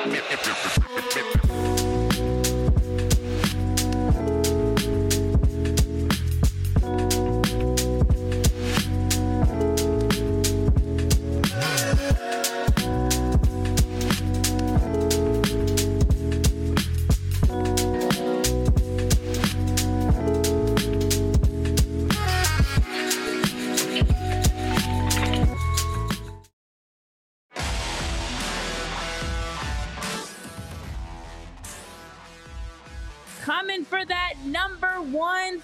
Coming for that number one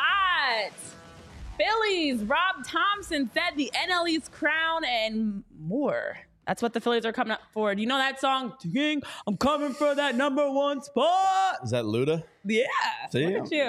spot. Phillies, Rob Thompson said the NL East crown and more. That's what the Phillies are coming up for. Do you know that song? I'm coming for that number one spot. Is that Luda? Yeah. See? Look at you.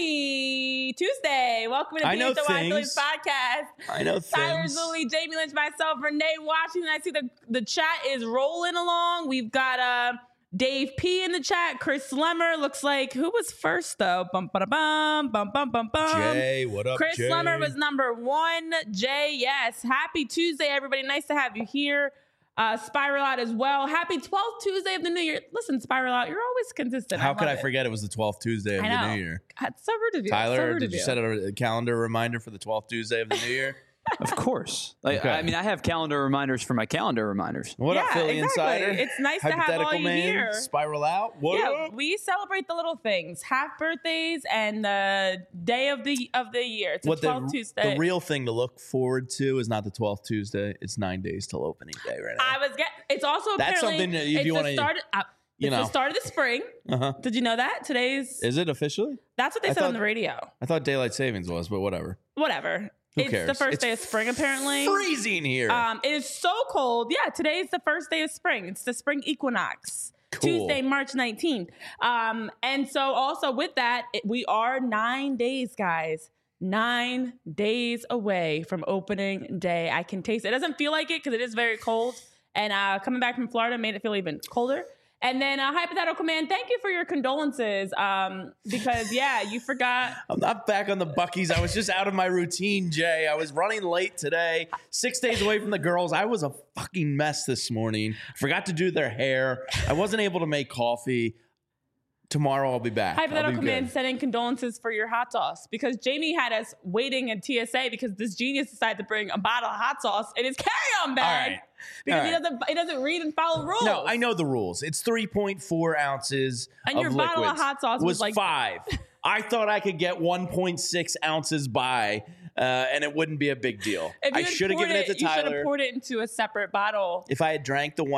Happy Tuesday. Welcome to the PHNY Phillies podcast. I know Tyler things. Zulli, Jamie Lynch, myself, Renee Washington. I see the chat is rolling along. We've got Dave P in the chat. Chris Slemmer looks like, who was first though? Bum, ba-da-bum, bum, bum, bum, bum. Jay, what up, Chris Jay? Slemmer was number one. Jay, yes. Happy Tuesday, everybody. Nice to have you here. Spiral Out as well. Happy 12th Tuesday of the new year. Listen, Spiral Out, you're always consistent. How could I forget it was the 12th Tuesday of the new year? God, so rude of you. Tyler, did you set a calendar reminder for the 12th Tuesday of the new year? Of course. Okay. I mean, I have calendar reminders for my calendar reminders. What up, Philly exactly. Insider? It's nice to have all you man, here. Spiral Out. What up? We celebrate the little things, half birthdays and the day of the year. It's a 12th Tuesday. The real thing to look forward to is not the 12th Tuesday. It's 9 days till opening day right now. It's also That's apparently something that if you want to, it's the start of the spring. Uh-huh. Did you know that? Is it officially? That's what they said on the radio. I thought daylight savings was, but whatever. Whatever. Who It's cares? the first day of spring, apparently. Freezing here. It is so cold. Yeah, today is the first day of spring. It's the spring equinox. Cool. Tuesday, March 19th. And so also with that, we are 9 days, guys. 9 days away from opening day. I can taste it. It doesn't feel like it because it is very cold. And coming back from Florida made it feel even colder. And then Hypothetical Man, thank you for your condolences. Because, yeah, you forgot. I'm not back on the Buckies. I was just out of my routine, Jay. I was running late today, 6 days away from the girls. I was a fucking mess this morning. Forgot to do their hair. I wasn't able to make coffee. Tomorrow I'll be back. Hypothetical Man sending condolences for your hot sauce because Jamie had us waiting in TSA because this genius decided to bring a bottle of hot sauce in his carry-on bag because he doesn't read and follow rules. No, I know the rules. It's 3.4 ounces and of your bottle of liquids. hot sauce was like 5. I thought I could get 1.6 ounces by, and it wouldn't be a big deal. I should have given it to Tyler. You should have poured it into a separate bottle. If I had drank the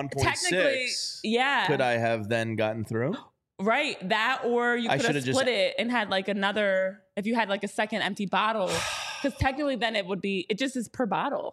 1.6, yeah, could I have then gotten through? Right, that or you could have split it and had like another. If you had like a second empty bottle, because technically then it just is per bottle.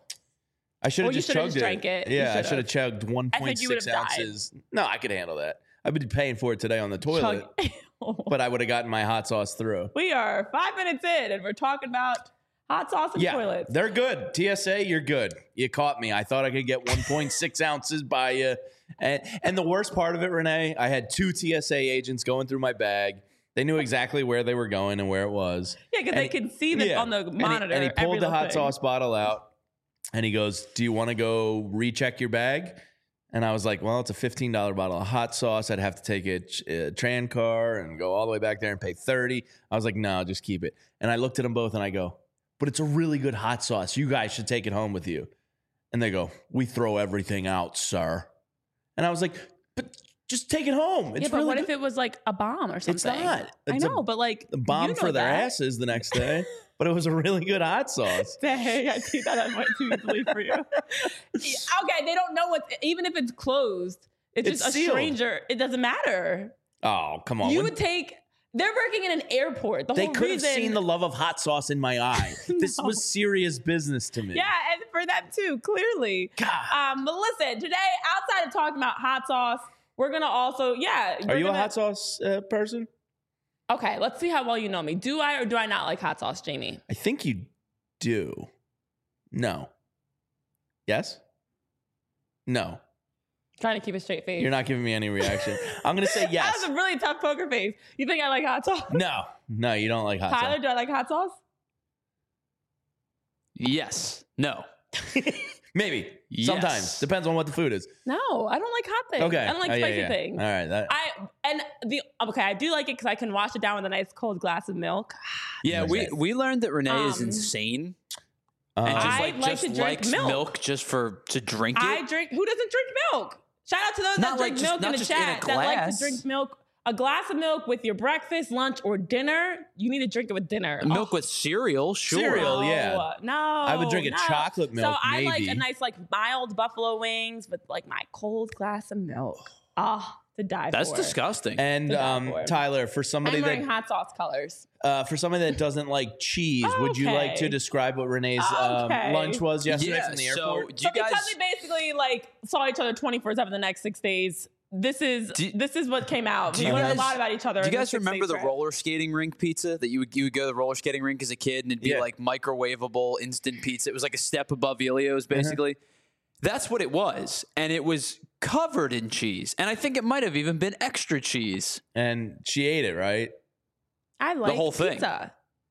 I should have just chugged it. Yeah, I should have chugged 1.6 ounces. No, I could handle that. I've been paying for it today on the toilet, but I would have gotten my hot sauce through. We are 5 minutes in, and we're talking about hot sauce and toilets. They're good. TSA, you're good. You caught me. I thought I could get 1.6 ounces by you. And the worst part of it, Renee, I had 2 TSA agents going through my bag. They knew exactly where they were going and where it was. Yeah, because they can see this on the monitor. And he pulled the hot sauce bottle out, and he goes, "Do you want to go recheck your bag?" And I was like, well, it's a $15 bottle of hot sauce. I'd have to take a tran car and go all the way back there and pay $30. I was like, no, just keep it. And I looked at them both and I go, but it's a really good hot sauce. You guys should take it home with you. And they go, we throw everything out, sir. And I was like, but just take it home. It's but really what good. if it was like a bomb or something? It's not. I know, but like the bomb for their asses the next day. But it was a really good hot sauce. Dang, I see that on my easily for you. Okay, they don't know what, even if it's closed, it's just sealed. A stranger. It doesn't matter. Oh, come on. You would take, they're working in an airport. They could have seen the love of hot sauce in my eye. This was serious business to me. Yeah, and for them too, clearly. God. But listen, today, outside of talking about hot sauce, we're going to also, Are you a hot sauce person? Okay, let's see how well you know me. Do I or do I not like hot sauce, Jamie? I think you do. No. Yes? No. Trying to keep a straight face. You're not giving me any reaction. I'm going to say yes. That was a really tough poker face. You think I like hot sauce? No, you don't like hot sauce. Tyler, do I like hot sauce? Yes. No. Maybe. Yes. Sometimes. Depends on what the food is. No, I don't like hot things. Okay. I don't like spicy things. All right. I do like it because I can wash it down with a nice cold glass of milk. Yeah, Okay. we learned that Renee is insane. And I like just to drink likes milk. just to drink it. Who doesn't drink milk? Shout out to those Not that drink like milk not in the just in a chat that like to glass. drink milk. A glass of milk with your breakfast, lunch, or dinner. You need to drink it with dinner. Milk with cereal, sure. Cereal. yeah. No, I would drink a no. chocolate milk, So I like maybe. a nice mild buffalo wings with my cold glass of milk. To die That's for. disgusting. And Tyler, for somebody I'm wearing that hot sauce colors. doesn't like cheese, would you like to Okay. describe what Renee's Okay. lunch was yesterday Yeah, from the so airport? do you guys because we basically saw each other 24/7 the next 6 days. This is what came out. We you learned guys- a lot about each other. Do you in guys this 6-day remember the trip. roller skating rink pizza that you would go to the roller skating rink as a kid and it'd be Yeah. like microwavable instant pizza? It was like a step above Elio's basically. That's what it was. And it was covered in cheese. And I think it might have even been extra cheese. And she ate it, right? I like whole thing. pizza.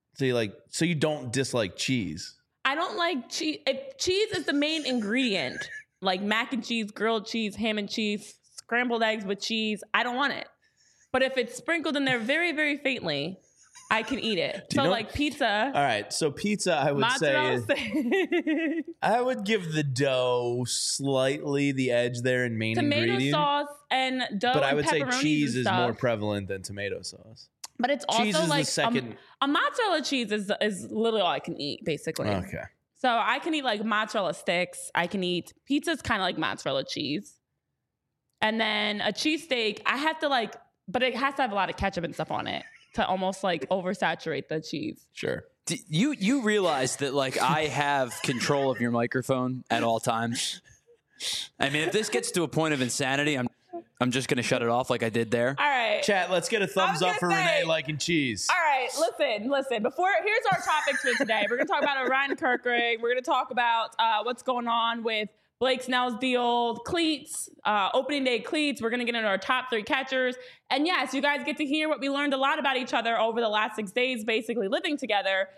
So you don't dislike cheese. I don't like cheese. If cheese is the main ingredient, like mac and cheese, grilled cheese, ham and cheese, scrambled eggs with cheese, I don't want it. But if it's sprinkled in there very, very faintly, I can eat it. you So know- pizza, All right, so pizza, I would mozzarella say, stick, I would give the dough slightly the edge there in main tomato ingredient. sauce and dough But I and would say pepperonis cheese and is stuff. more prevalent than tomato sauce. But it's Cheese also is the like second- a mozzarella cheese is literally all I can eat, basically. Okay. So I can eat mozzarella sticks. I can eat pizza's kind of like mozzarella cheese. And then a cheesesteak, I have to but it has to have a lot of ketchup and stuff on it to almost oversaturate the cheese. Sure. You realize that I have control of your microphone at all times. I mean, if this gets to a point of insanity, I'm just gonna shut it off like I did there. All right. Chat, let's get a thumbs I up was for gonna say- Renee liking cheese. All right, listen. Here's our topics for today. We're going to talk about Ryan Kirkering. We're going to talk about what's going on with Blake Snell's deal, cleats, opening day cleats. We're going to get into our top 3 catchers. And yes, you guys get to hear what we learned a lot about each other over the last 6 days, basically living together.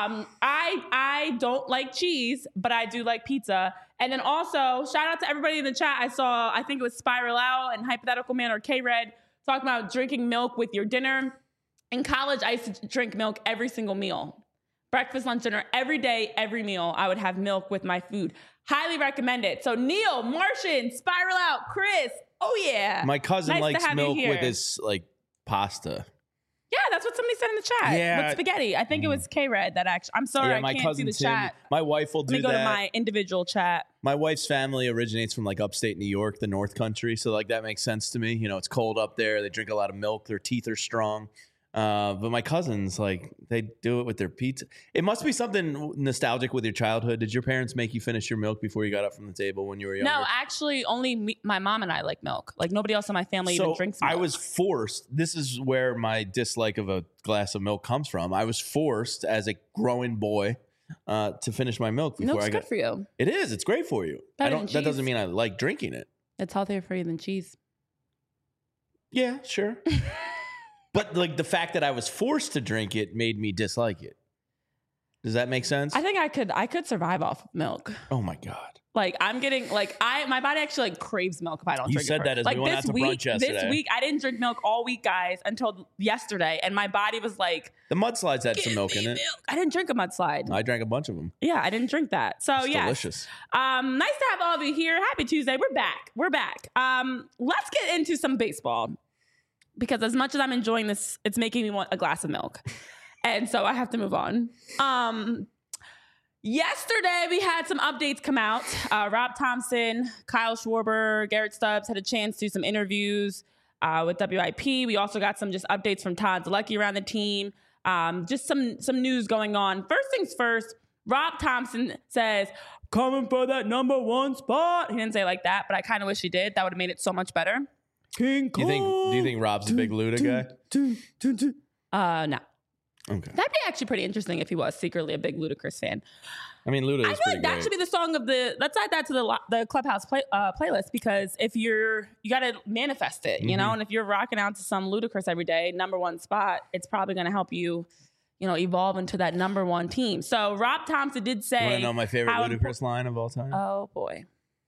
I don't like cheese, but I do like pizza. And then also, shout out to everybody in the chat. I think it was Spiral Out and Hypothetical Man or K-Red talking about drinking milk with your dinner. In college, I used to drink milk every single meal. Breakfast, lunch, dinner, every day, every meal, I would have milk with my food. Highly recommend it. So Neil, Martian, Spiral Out, Chris. Oh, yeah. My cousin Nice to likes have you milk here. with his pasta. Yeah, that's what somebody said in the chat. Yeah. With spaghetti. I think it was K-Red that actually. I'm sorry, Yeah, I my can't see cousin the Tim. chat. My wife will Let me do go that. to my individual chat. My wife's family originates from upstate New York, the North Country, so that makes sense to me. It's cold up there. They drink a lot of milk. Their teeth are strong. But my cousins, they do it with their pizza. It must be something nostalgic with your childhood. Did your parents make you finish your milk before you got up from the table when you were younger? No, actually, only my mom and I like milk. Nobody else in my family even drinks milk. I was forced. This is where my dislike of a glass of milk comes from. I was forced as a growing boy to finish my milk before Milk's I got. good for you. It is. It's great for you. Better than That doesn't cheese. mean I like drinking it. It's healthier for you than cheese. Yeah, sure. But the fact that I was forced to drink it made me dislike it. Does that make sense? I think I could survive off of milk. Oh my God. I'm getting my body actually craves milk if I don't You drink it. said that first. as we went out to brunch yesterday. This week I didn't drink milk all week, guys, until yesterday, and my body was like, The mudslides had some "Give milk me in it. milk." I didn't drink a mudslide. I drank a bunch of them. Yeah, I didn't drink that. So It's yeah, delicious. nice to have all of you here. Happy Tuesday. We're back. Let's get into some baseball because as much as I'm enjoying this, it's making me want a glass of milk, and so I have to move on. Yesterday, we had some updates come out. Rob Thompson, Kyle Schwarber, Garrett Stubbs had a chance to do some interviews with WIP. We also got some just updates from Todd Zalecki around the team. Just some news going on. First things first, Rob Thompson says, coming for that number 1 spot. He didn't say it like that, but I kind of wish he did. That would have made it so much better. King Do you think Rob's a big Luda guy? No. Okay. That'd be actually pretty interesting if he was secretly a big Ludacris fan. I mean, Luda is I feel pretty like that great. should be the song of the. Let's add that to the Clubhouse playlist because if you got to manifest it, you know, and if you're rocking out to some Ludacris every day, number 1 spot, it's probably going to help you, evolve into that number one team. So Rob Thompson did say, You want to know my favorite Ludacris line of all time? Oh boy.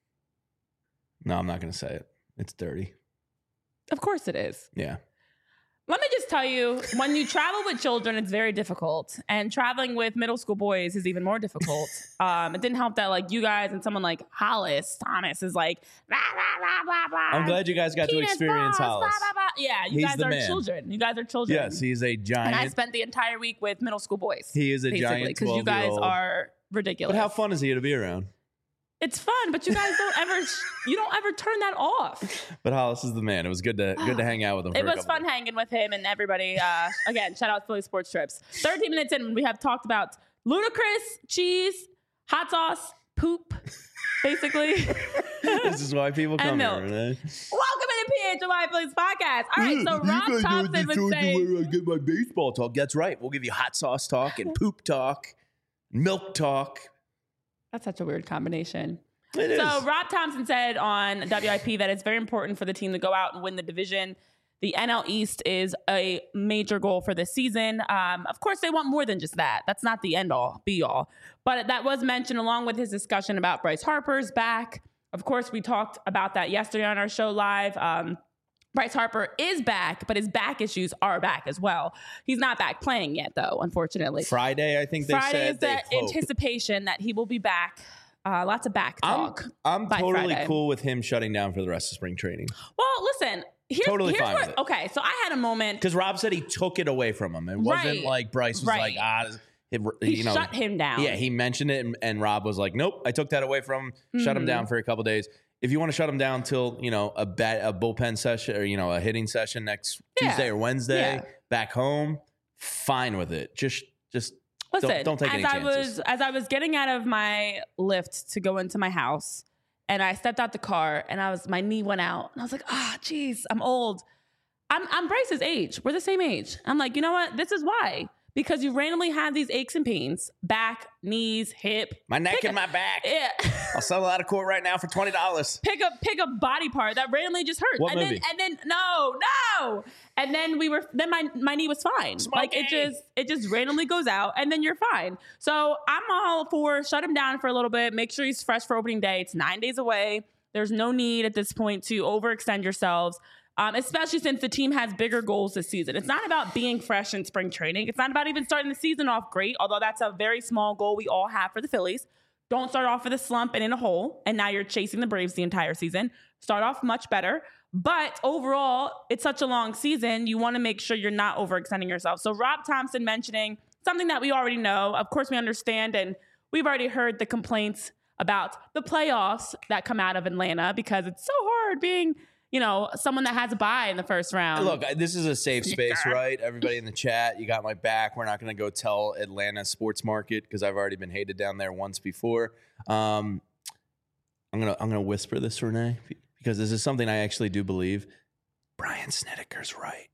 No, I'm not going to say it. It's dirty. Of course it is. Yeah. Let me just tell you, when you travel with children, it's very difficult. And traveling with middle school boys is even more difficult. It didn't help that like you guys and someone like Hollis Thomas is like, blah, blah, blah, blah, blah. I'm glad you guys got to experience Hollis. Blah, blah, blah. Yeah, you He's guys the are man. children. You guys are children. Yes, he's a giant. And I spent the entire week with middle school boys. He is a giant 12-year-old. Because you guys are ridiculous. But how fun is he to be around? It's fun, but you guys don't ever turn that off. But Hollis is the man. It was good to hang out with him. It was fun hanging with him and everybody. Again, shout out Philly Sports Trips. 13 minutes in, we have talked about Ludacris, cheese, hot sauce, poop, basically. This is why people come here. Right? Welcome to the PHLY Phillies podcast. All right, so Rob Thompson would say, I get my baseball talk. That's right. We'll give you hot sauce talk and poop talk, milk talk. That's such a weird combination. It is. So Rob Thompson said on WIP that it's very important for the team to go out and win the division. The NL East is a major goal for this season. Of course, they want more than just that. That's not the end all, be all. But that was mentioned along with his discussion about Bryce Harper's back. Of course, we talked about that yesterday on our show live. Bryce Harper is back, but his back issues are back as well. He's not back playing yet, though, unfortunately. Friday, I think they Friday said. is the anticipation that he will be back. Lots of back talk. I'm totally Friday. cool with him shutting down for the rest of spring training. Well, listen. Here's fine with it. Okay, so I had a moment. Because Rob said he took it away from him. It wasn't like Bryce was like, he shut him down. Yeah, he mentioned it, and Rob was like, nope, I took that away from him, shut him down for a couple days. If you want to shut him down till, a bullpen session or, a hitting session next Tuesday or Wednesday back home, fine with it. Just listen, don't take any chances. As I was getting out of my lift to go into my house and I stepped out the car and my knee went out and I was like, geez, I'm old. I'm Bryce's age. We're the same age. I'm like, you know what? This is why. Because you randomly have these aches and pains, back, knees, hip. My neck and my back. Yeah. I'll sell it out of court right now for $20. Pick a body part that randomly just hurts. What movie? No. And then my knee was fine. Smokey. Like it just randomly goes out and then you're fine. So I'm all for shut him down for a little bit. Make sure he's fresh for opening day. It's 9 days away. There's no need at this point to overextend yourselves. Especially since the team has bigger goals this season. It's not about being fresh in spring training. It's not about even starting the season off great, although that's a very small goal we all have for the Phillies. Don't start off with a slump and in a hole, and now you're chasing the Braves the entire season. Start off much better. But overall, it's such a long season, you want to make sure you're not overextending yourself. So Rob Thompson mentioning something that we already know. Of course, we understand, and we've already heard the complaints about the playoffs that come out of Atlanta because it's so hard being someone that has a bye in the first round. Look, this is a safe space, right? Everybody in the chat, you got my back. We're not going to go tell Atlanta sports market because I've already been hated down there once before. I'm gonna whisper this, Renee, because this is something I actually do believe. Brian Snedeker's right.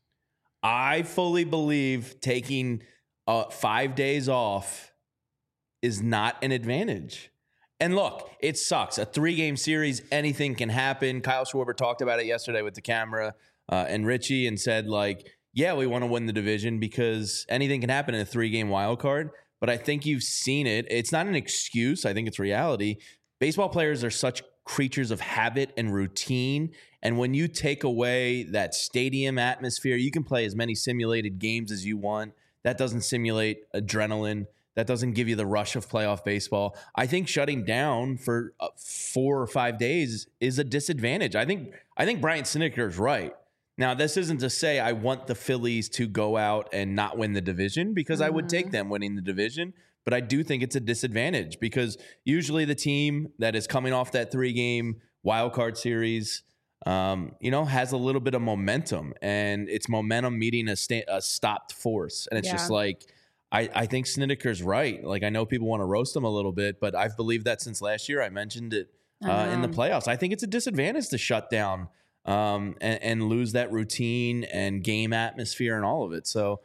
I fully believe taking 5 days off is not an advantage. And look, it sucks. A 3-game series, anything can happen. Kyle Schwarber talked about it yesterday with the camera and Richie and said, we want to win the division because anything can happen in a 3-game wild card. But I think you've seen it. It's not an excuse. I think it's reality. Baseball players are such creatures of habit and routine. And when you take away that stadium atmosphere, you can play as many simulated games as you want. That doesn't simulate adrenaline. That doesn't give you the rush of playoff baseball. I think shutting down for 4 or 5 days is a disadvantage. I think Brian Snedeker is right. Now, this isn't to say I want the Phillies to go out and not win the division because I would take them winning the division. But I do think it's a disadvantage because usually the team that is coming off that 3-game wild card series, has a little bit of momentum, and it's momentum meeting a stopped force. And it's just like, I think Snedeker's right. Like, I know people want to roast him a little bit, but I've believed that since last year. I mentioned it in the playoffs. I think it's a disadvantage to shut down and lose that routine and game atmosphere and all of it. So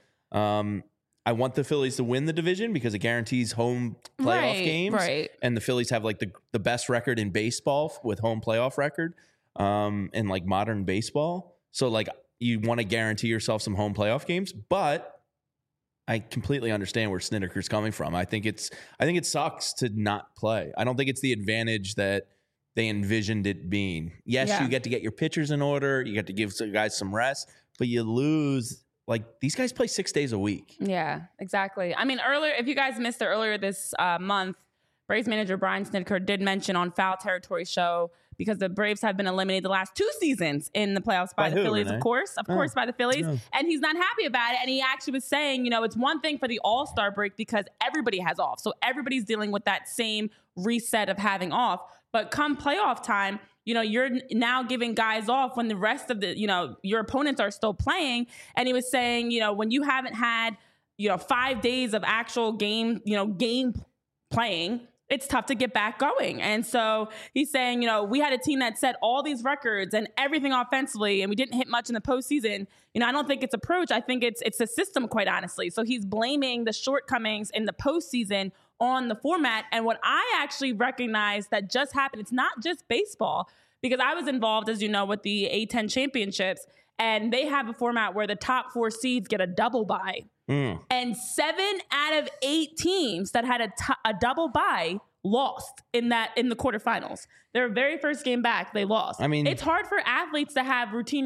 I want the Phillies to win the division because it guarantees home playoff games. Right. And the Phillies have the best record in baseball with home playoff record in modern baseball. So you want to guarantee yourself some home playoff games, but I completely understand where Snedeker's coming from. I think it sucks to not play. I don't think it's the advantage that they envisioned it being. Yes, you get to get your pitchers in order. You get to give some guys some rest, but you lose. Like, these guys play 6 days a week. Yeah, exactly. I mean, earlier, if you guys missed it earlier this month, Braves manager Brian Snitker did mention on Foul Territory show, because the Braves have been eliminated the last 2 seasons in the playoffs by the who, Phillies, Renee? of course by the Phillies. Yeah. And he's not happy about it. And he actually was saying, it's one thing for the All-Star break because everybody has off. So everybody's dealing with that same reset of having off. But come playoff time, you're now giving guys off when the rest of the, your opponents are still playing. And he was saying, when you haven't had, 5 days of actual game playing, it's tough to get back going. And so he's saying, we had a team that set all these records and everything offensively, and we didn't hit much in the postseason. I don't think it's approach. I think it's a system, quite honestly. So he's blaming the shortcomings in the postseason on the format. And what I actually recognize that just happened, it's not just baseball, because I was involved, as you know, with the A10 championships, and they have a format where the top 4 seeds get a double bye. And 7 out of 8 teams that had a double bye lost in the quarterfinals. Their very first game back, they lost. I mean, it's hard for athletes to have routine,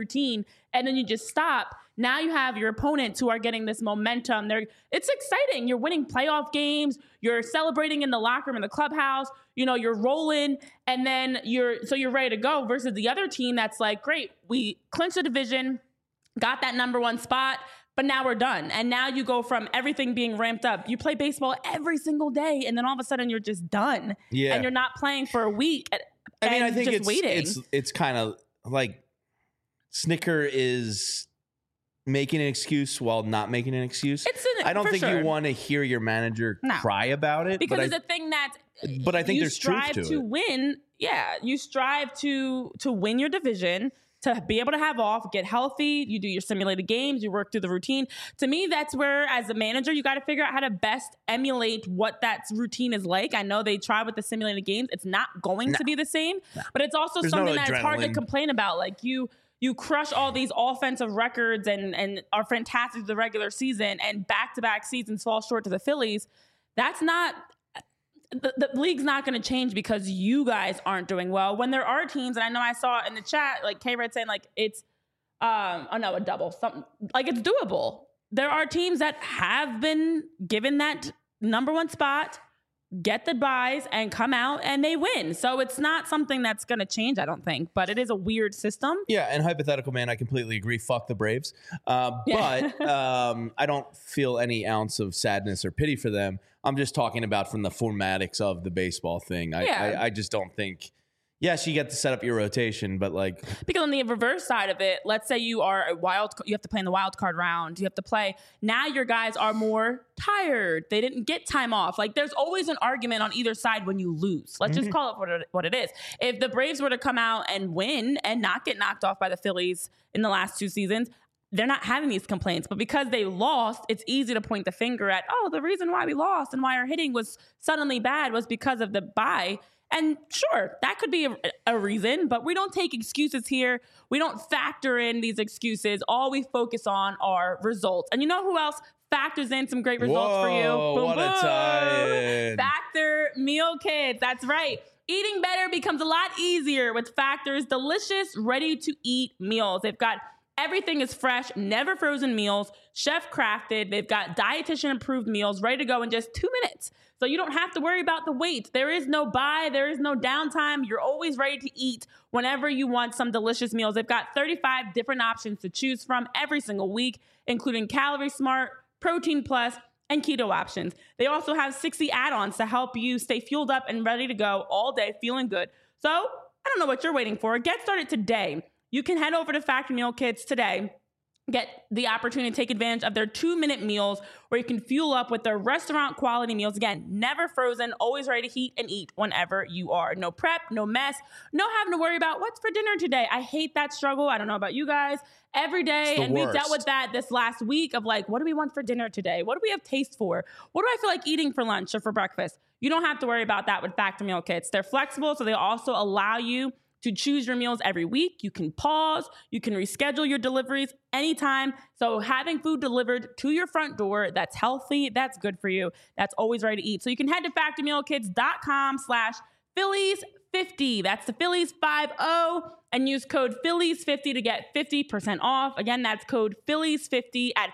and then you just stop. Now you have your opponents who are getting this momentum. It's exciting. You're winning playoff games. You're celebrating in the locker room, in the clubhouse. You're rolling, and then you're ready to go. Versus the other team that's like, great, we clinched the division, got that number 1 spot, but now we're done. And now you go from everything being ramped up. You play baseball every single day, and then all of a sudden you're just done. Yeah. And you're not playing for a week. I think just waiting. It's kind of like Snitker is making an excuse while not making an excuse. I don't think you want to hear your manager cry about it. Because it's a thing that but I think there's truth to it. You strive to win. Yeah, you strive to win your division, to be able to have off, get healthy. You do your simulated games. You work through the routine. To me, that's where, as a manager, you got to figure out how to best emulate what that routine is like. I know they try with the simulated games. It's not going to be the same, but it's also something that's hard to complain about. Like you crush all these offensive records and are fantastic to the regular season, and back-to-back seasons fall short to the Phillies. That's not... The league's not going to change because you guys aren't doing well. When there are teams, and I know I saw in the chat, like K-Red saying, like, it's, a double, something, like, it's doable. There are teams that have been given that number 1 spot, get the buys, and come out, and they win. So it's not something that's going to change, I don't think, but it is a weird system. Yeah, and hypothetical, man, I completely agree. Fuck the Braves. But I don't feel any ounce of sadness or pity for them. I'm just talking about from the formatics of the baseball thing. I just don't think. Yes, you get to set up your rotation, but like, because on the reverse side of it, let's say you are you have to play in the wild card round. You have to play. Now your guys are more tired. They didn't get time off. Like, there's always an argument on either side when you lose. Let's just call it what it is. If the Braves were to come out and win and not get knocked off by the Phillies in the last 2 seasons, they're not having these complaints. But because they lost, it's easy to point the finger at, the reason why we lost and why our hitting was suddenly bad was because of the bye. And sure, that could be a reason, but we don't take excuses here. We don't factor in these excuses. All we focus on are results. And you know who else factors in some great results for you? Boom, what a tie-in. Factor Meal Kits. That's right. Eating better becomes a lot easier with Factor's delicious, ready-to-eat meals. They've got everything is fresh, never frozen meals, chef crafted. They've got dietitian approved meals ready to go in just 2 minutes. So you don't have to worry about the wait. There is no buy. There is no downtime. You're always ready to eat whenever you want some delicious meals. They've got 35 different options to choose from every single week, including Calorie Smart, Protein Plus, and keto options. They also have 60 add-ons to help you stay fueled up and ready to go all day feeling good. So I don't know what you're waiting for. Get started today. You can head over to Factor Meal Kits today. Get the opportunity to take advantage of their 2-minute meals where you can fuel up with their restaurant quality meals. Again, never frozen, always ready to heat and eat whenever you are. No prep, no mess, no having to worry about what's for dinner today. I hate that struggle. I don't know about you guys. Every day, and we dealt with that this last week of like, what do we want for dinner today? What do we have taste for? What do I feel like eating for lunch or for breakfast? You don't have to worry about that with Factor Meal Kits. They're flexible, so they also allow you to choose your meals every week. You can pause, you can reschedule your deliveries anytime. So having food delivered to your front door that's healthy, that's good for you, that's always ready to eat. So you can head to factormealkits.com/Phillies50. That's the Phillies 50 and use code Phillies50 to get 50% off. Again, that's code Phillies50 at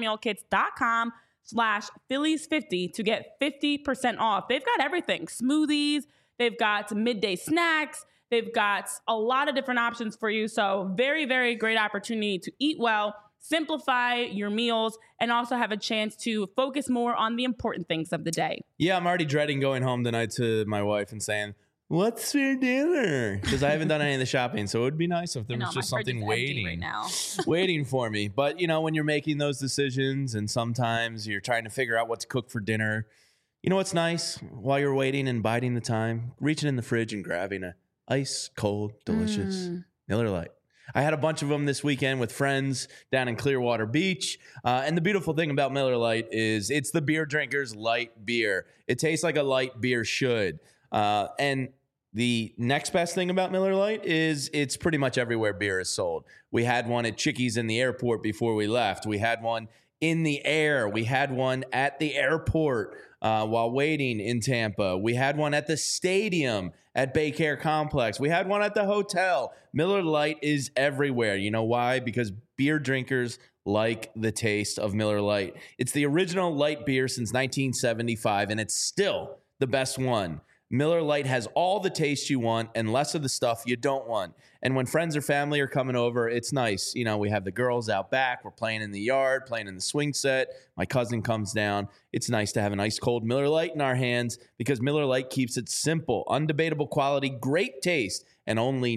factormealkits.com/Phillies50 to get 50% off. They've got everything. Smoothies, they've got midday snacks, they've got a lot of different options for you. So very, very great opportunity to eat well, simplify your meals, and also have a chance to focus more on the important things of the day. Yeah, I'm already dreading going home tonight to my wife and saying, what's for dinner? Because I haven't done any of the shopping. So it would be nice if there was just something waiting right now. waiting for me. But, you know, when you're making those decisions and sometimes you're trying to figure out what to cook for dinner, you know what's nice? While you're waiting and biding the time, reaching in the fridge and grabbing a ice cold, delicious Miller Lite. I had a bunch of them this weekend with friends down in Clearwater Beach. And the beautiful thing about Miller Lite is it's the beer drinker's light beer. It tastes like a light beer should. And the next best thing about Miller Lite is it's pretty much everywhere beer is sold. We had one at Chickies in the airport before we left. We had one in the air. We had one at the airport while waiting in Tampa. We had one at the stadium at Baycare Complex. We had one at the hotel. Miller Lite is everywhere. You know why? Because beer drinkers like the taste of Miller Lite. It's the original light beer since 1975, and it's still the best one. Miller Lite has all the taste you want and less of the stuff you don't want. And when friends or family are coming over, it's nice. You know, we have the girls out back. We're playing in the yard, playing in the swing set. My cousin comes down. It's nice to have an ice cold Miller Lite in our hands because Miller Lite keeps it simple, undebatable quality, great taste, and only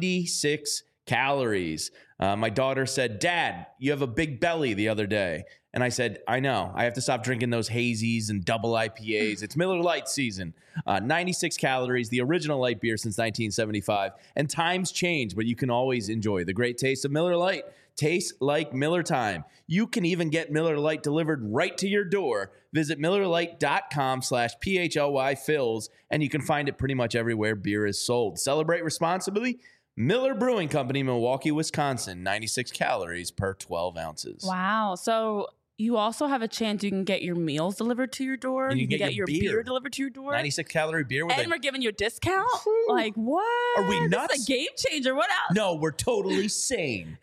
96 calories. My daughter said, Dad, you have a big belly the other day. And I said, I know. I have to stop drinking those hazies and double IPAs. It's Miller Lite season. 96 calories, the original light beer since 1975. And times change, but you can always enjoy the great taste of Miller Lite. Tastes like Miller time. You can even get Miller Lite delivered right to your door. Visit MillerLite.com/PHLYFills, and you can find it pretty much everywhere beer is sold. Celebrate responsibly. Miller Brewing Company, Milwaukee, Wisconsin, 96 calories per 12 ounces. Wow. So you also have a chance you can get your meals delivered to your door. And you can get your beer delivered to your door. 96 calorie beer. And we're giving you a discount? Like, what? Are we nuts? This is a game changer. What else? No, we're totally sane.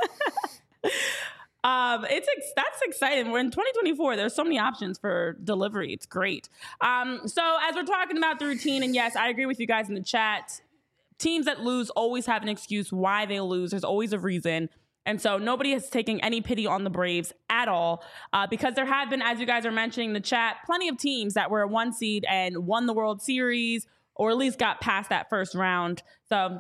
That's exciting. We're in 2024. There's so many options for delivery. It's great. So as we're talking about the routine, and yes, I agree with you guys in the chat. Teams that lose always have an excuse why they lose. There's always a reason. And so nobody is taking any pity on the Braves at all because there have been, as you guys are mentioning in the chat, plenty of teams that were a 1 seed and won the World Series or at least got past that first round. So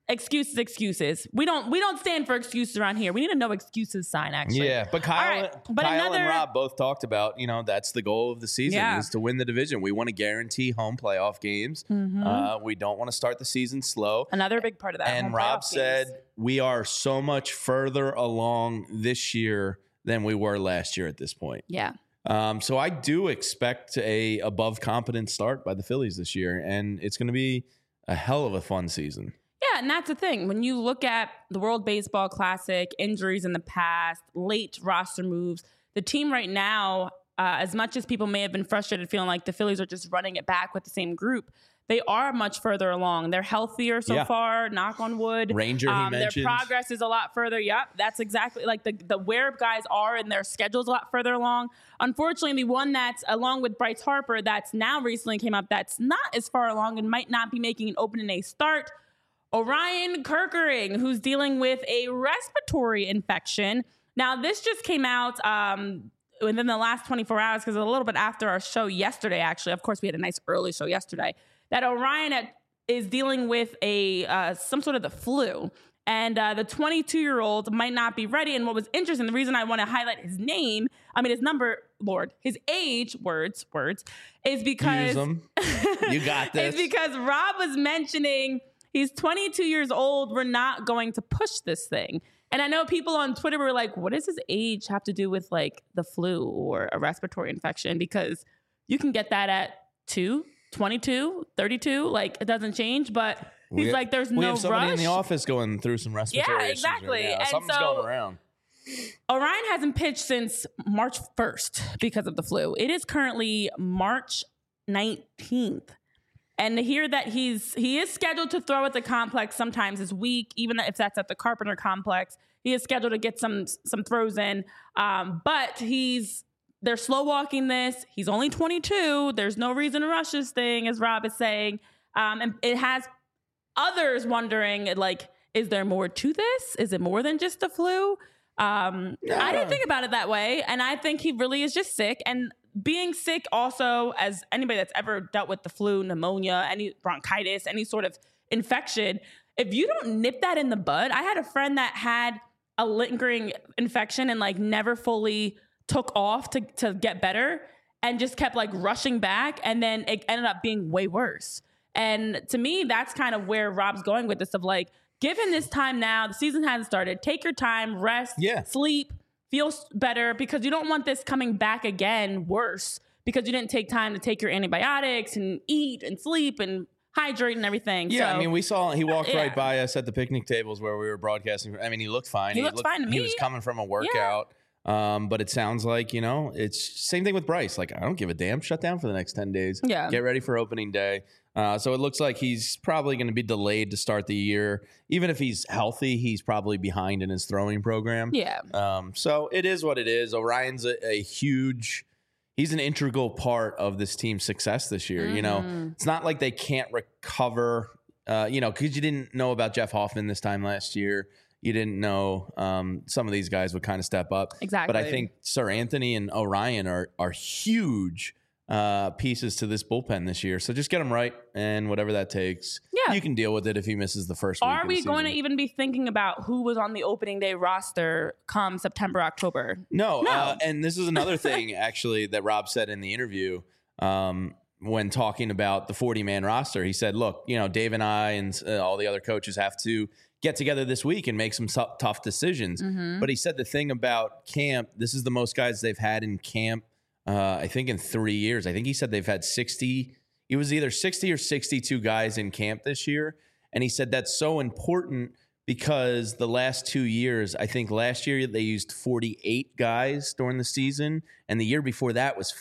excuses. We don't stand for excuses around here. We need a no excuses sign, actually. Yeah, but Kyle and Rob both talked about, that's the goal of the season is to win the division. We want to guarantee home playoff games. Mm-hmm. We don't want to start the season slow. Another big part of that. And Rob said we are so much further along this year than we were last year at this point. Yeah. So I do expect a above competent start by the Phillies this year, and it's going to be a hell of a fun season. Yeah, and that's the thing. When you look at the World Baseball Classic, injuries in the past, late roster moves, the team right now, as much as people may have been frustrated feeling like the Phillies are just running it back with the same group, they are much further along. They're healthier so far, knock on wood. Ranger, he mentioned. Their progress is a lot further. Yep, that's exactly like the where guys are in their schedules a lot further along. Unfortunately, the one that's along with Bryce Harper that's now recently came up that's not as far along and might not be making an opening day start, Orion Kerkering, who's dealing with a respiratory infection. Now, this just came out within the last 24 hours because a little bit after our show yesterday, actually. Of course, we had a nice early show yesterday. That Orion is dealing with some sort of the flu. And the 22-year-old might not be ready. And what was interesting, the reason I want to highlight his name, his number, his age, words, is because... Use them. You got this. It's because Rob was mentioning... He's 22 years old. We're not going to push this thing. And I know people on Twitter were like, what does his age have to do with like the flu or a respiratory infection? Because you can get that at 22, 32. Like it doesn't change. But He's like, there's no We have somebody rush. in the office going through some respiratory issues exactly. right now. And Something's so- going around. Orion hasn't pitched since March 1st because of the flu. It is currently March 19th. And to hear that he is scheduled to throw at the complex sometimes this week, even if that's at the Carpenter complex. He is scheduled to get some throws in. But they're slow walking this. He's only 22. There's no reason to rush this thing, as Rob is saying. And it has others wondering, like, is there more to this? Is it more than just the flu? I didn't think about it that way. And I think he really is just sick. And being sick also, as anybody that's ever dealt with the flu, pneumonia, any bronchitis, any sort of infection, if you don't nip that in the bud, I had a friend that had a lingering infection and like never fully took off to get better and just kept like rushing back. And then it ended up being way worse. And to me, that's kind of where Rob's going with this of like, give him this time now. The season hasn't started. Take your time, rest, sleep, feel better, because you don't want this coming back again worse because you didn't take time to take your antibiotics and eat and sleep and hydrate and everything. Yeah, so, I mean, we saw he walked right by us at the picnic tables where we were broadcasting. I mean, he looked fine. He looked fine to me. He was coming from a workout. But it sounds like, it's same thing with Bryce. Like, I don't give a damn. Shut down for the next 10 days. Yeah. Get ready for opening day. So it looks like he's probably going to be delayed to start the year. Even if he's healthy, he's probably behind in his throwing program. Yeah. So it is what it is. Orion's a huge, he's an integral part of this team's success this year. It's not like they can't recover, because you didn't know about Jeff Hoffman this time last year. You didn't know some of these guys would kind of step up. Exactly. But I think Sir Anthony and Orion are huge pieces to this bullpen this year. So just get them right, and whatever that takes, you can deal with it if he misses the first week. Are we going to even be thinking about who was on the opening day roster come September, October? No. And this is another thing, actually, that Rob said in the interview when talking about the 40-man roster. He said, look, Dave and I and all the other coaches have to get together this week and make some tough decisions. Mm-hmm. But he said the thing about camp, this is the most guys they've had in camp, I think in 3 years. I think he said they've had 60. It was either 60 or 62 guys in camp this year. And he said that's so important because the last 2 years, I think last year they used 48 guys during the season. And the year before that was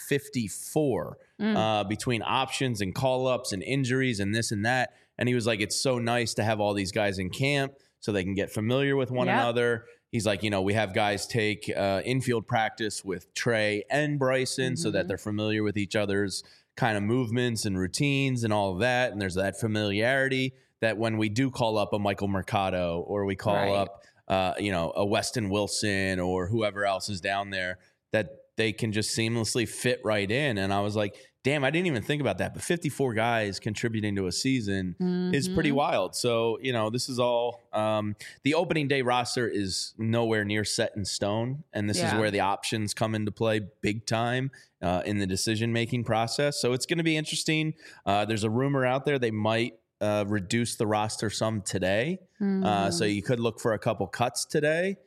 54 between options and call-ups and injuries and this and that. And he was like, it's so nice to have all these guys in camp so they can get familiar with one another. He's like, we have guys take infield practice with Trey and Bryson so that they're familiar with each other's kind of movements and routines and all of that. And there's that familiarity that when we do call up a Michael Mercado or we call up, a Weston Wilson or whoever else is down there, that they can just seamlessly fit right in. And I was like, damn, I didn't even think about that. But 54 guys contributing to a season is pretty wild. So, this is all the opening day roster is nowhere near set in stone. And this is where the options come into play big time in the decision-making process. So it's going to be interesting. There's a rumor out there they might reduce the roster some today. So you could look for a couple cuts today.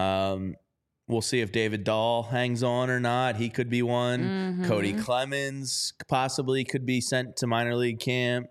We'll see if David Dahl hangs on or not. He could be one. Cody Clemens possibly could be sent to minor league camp.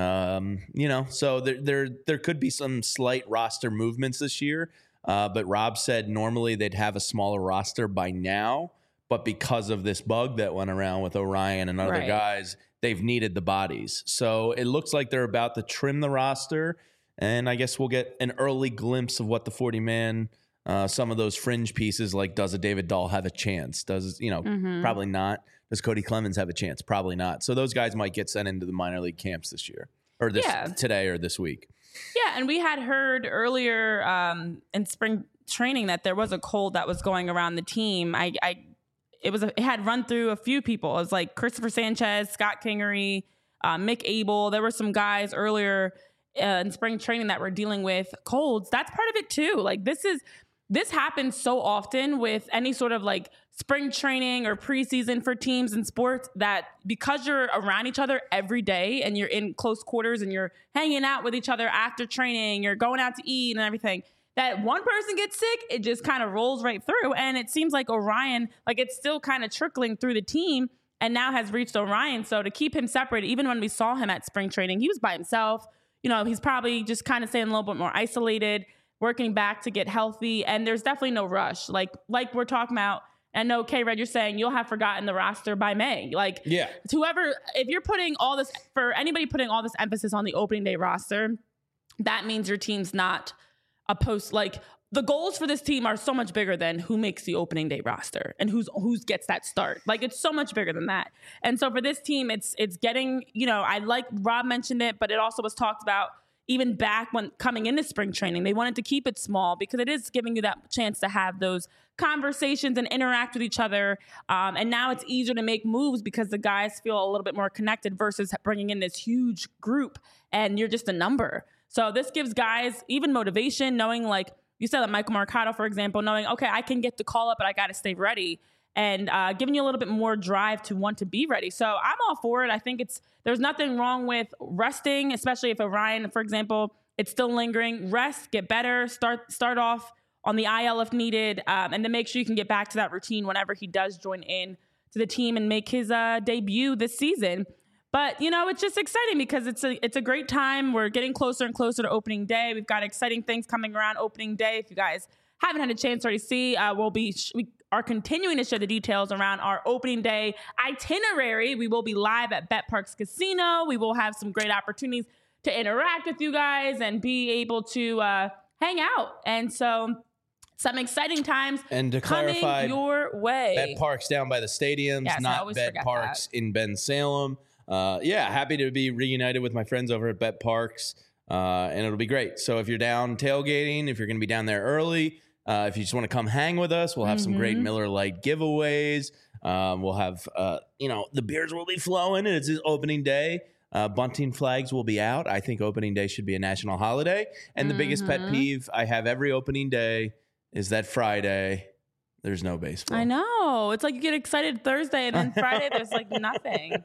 So there could be some slight roster movements this year. But Rob said normally they'd have a smaller roster by now. But because of this bug that went around with Orion and other guys, they've needed the bodies. So it looks like they're about to trim the roster. And I guess we'll get an early glimpse of what the 40-man some of those fringe pieces, like does a David Dahl have a chance? Probably not. Does Cody Clemens have a chance? Probably not. So those guys might get sent into the minor league camps this year or today or this week. Yeah, and we had heard earlier in spring training that there was a cold that was going around the team. It had run through a few people. It was like Christopher Sanchez, Scott Kingery, Mick Abel. There were some guys earlier in spring training that were dealing with colds. That's part of it too. Like this happens so often with any sort of like spring training or preseason for teams in sports that because you're around each other every day and you're in close quarters and you're hanging out with each other after training, you're going out to eat and everything, that one person gets sick, it just kind of rolls right through. And it seems like Orion, like it's still kind of trickling through the team and now has reached Orion. So to keep him separate, even when we saw him at spring training, he was by himself. he's probably just kind of staying a little bit more isolated, working back to get healthy. And there's definitely no rush. Like we're talking about, I know, K-Red, you're saying you'll have forgotten the roster by May. Like, Yeah. if you're putting all this, for anybody putting all this emphasis on the opening day roster, that means your team's not a post. Like, the goals for this team are so much bigger than who makes the opening day roster and who's gets that start. Like, it's so much bigger than that. And so for this team, it's getting, I like Rob mentioned it, but it also was talked about even back when coming into spring training. They wanted to keep it small because it is giving you that chance to have those conversations and interact with each other. And now it's easier to make moves because the guys feel a little bit more connected versus bringing in this huge group and you're just a number. So this gives guys even motivation, knowing, like you said, that Michael Mercado, for example, knowing, okay, I can get the call up, but I got to stay ready, and giving you a little bit more drive to want to be ready. So I'm all for it. I think there's nothing wrong with resting, especially if Orion, for example, it's still lingering. Rest, get better, start off on the IL if needed, and then make sure you can get back to that routine whenever he does join in to the team and make his debut this season. But, it's just exciting because it's a great time. We're getting closer and closer to opening day. We've got exciting things coming around opening day. If you guys haven't had a chance to already see, we are continuing to share the details around our opening day itinerary. We will be live at BetParx Casino. We will have some great opportunities to interact with you guys and be able to hang out. And so some exciting times and to clarify, your way. BetParx down by the stadiums, yes, not BetParx in Bensalem. Happy to be reunited with my friends over at BetParx, and it'll be great. So if you're down tailgating, if you're going to be down there early, if you just want to come hang with us, we'll have some great Miller Lite giveaways. We'll have, the beers will be flowing, and it's opening day. Bunting flags will be out. I think opening day should be a national holiday. And the biggest pet peeve I have every opening day is that Friday there's no baseball. I know. It's like you get excited Thursday and then Friday there's like nothing.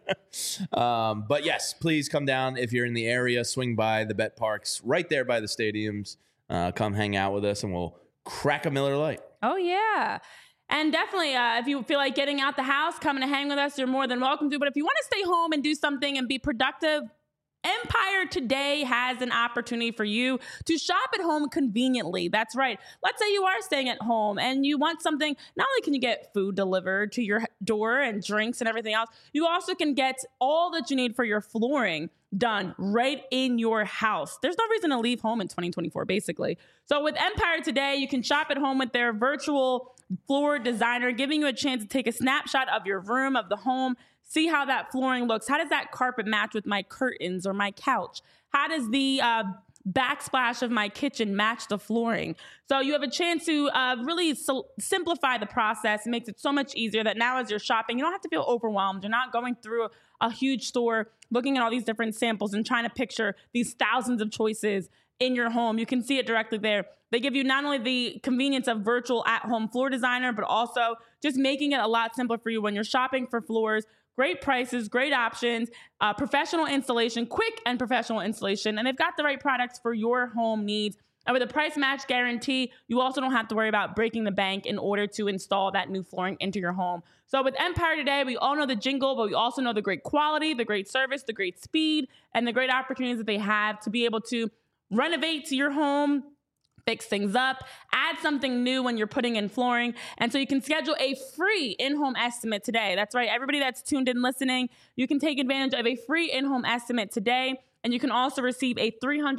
But yes, please come down if you're in the area. Swing by the BetParx right there by the stadiums. Come hang out with us and we'll crack a Miller Lite. Oh, yeah. And definitely, if you feel like getting out the house, coming to hang with us, you're more than welcome to. But if you want to stay home and do something and be productive, Empire today has an opportunity for you to shop at home conveniently. That's right. Let's say you are staying at home and you want something. Not only can you get food delivered to your door and drinks and everything else, you also can get all that you need for your flooring done right in your house. There's no reason to leave home in 2024, basically. So with Empire today, you can shop at home with their virtual floor designer, giving you a chance to take a snapshot of your room, of the home, see how that flooring looks. How does that carpet match with my curtains or my couch? How does the backsplash of my kitchen match the flooring? So you have a chance to really simplify the process. It makes it so much easier that now as you're shopping, you don't have to feel overwhelmed. You're not going through a huge store, looking at all these different samples and trying to picture these thousands of choices in your home. You can see it directly there. They give you not only the convenience of virtual at-home floor designer, but also just making it a lot simpler for you when you're shopping for floors. Great prices, great options, professional installation, quick and professional installation, and they've got the right products for your home needs. And with a price match guarantee, you also don't have to worry about breaking the bank in order to install that new flooring into your home. So with Empire today, we all know the jingle, but we also know the great quality, the great service, the great speed, and the great opportunities that they have to be able to renovate to your home, fix things up, add something new when you're putting in flooring. And so you can schedule a free in-home estimate today. That's right. Everybody that's tuned in listening, you can take advantage of a free in-home estimate today. And you can also receive a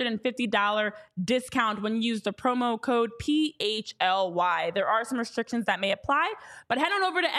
$350 discount when you use the promo code PHLY. There are some restrictions that may apply, but head on over to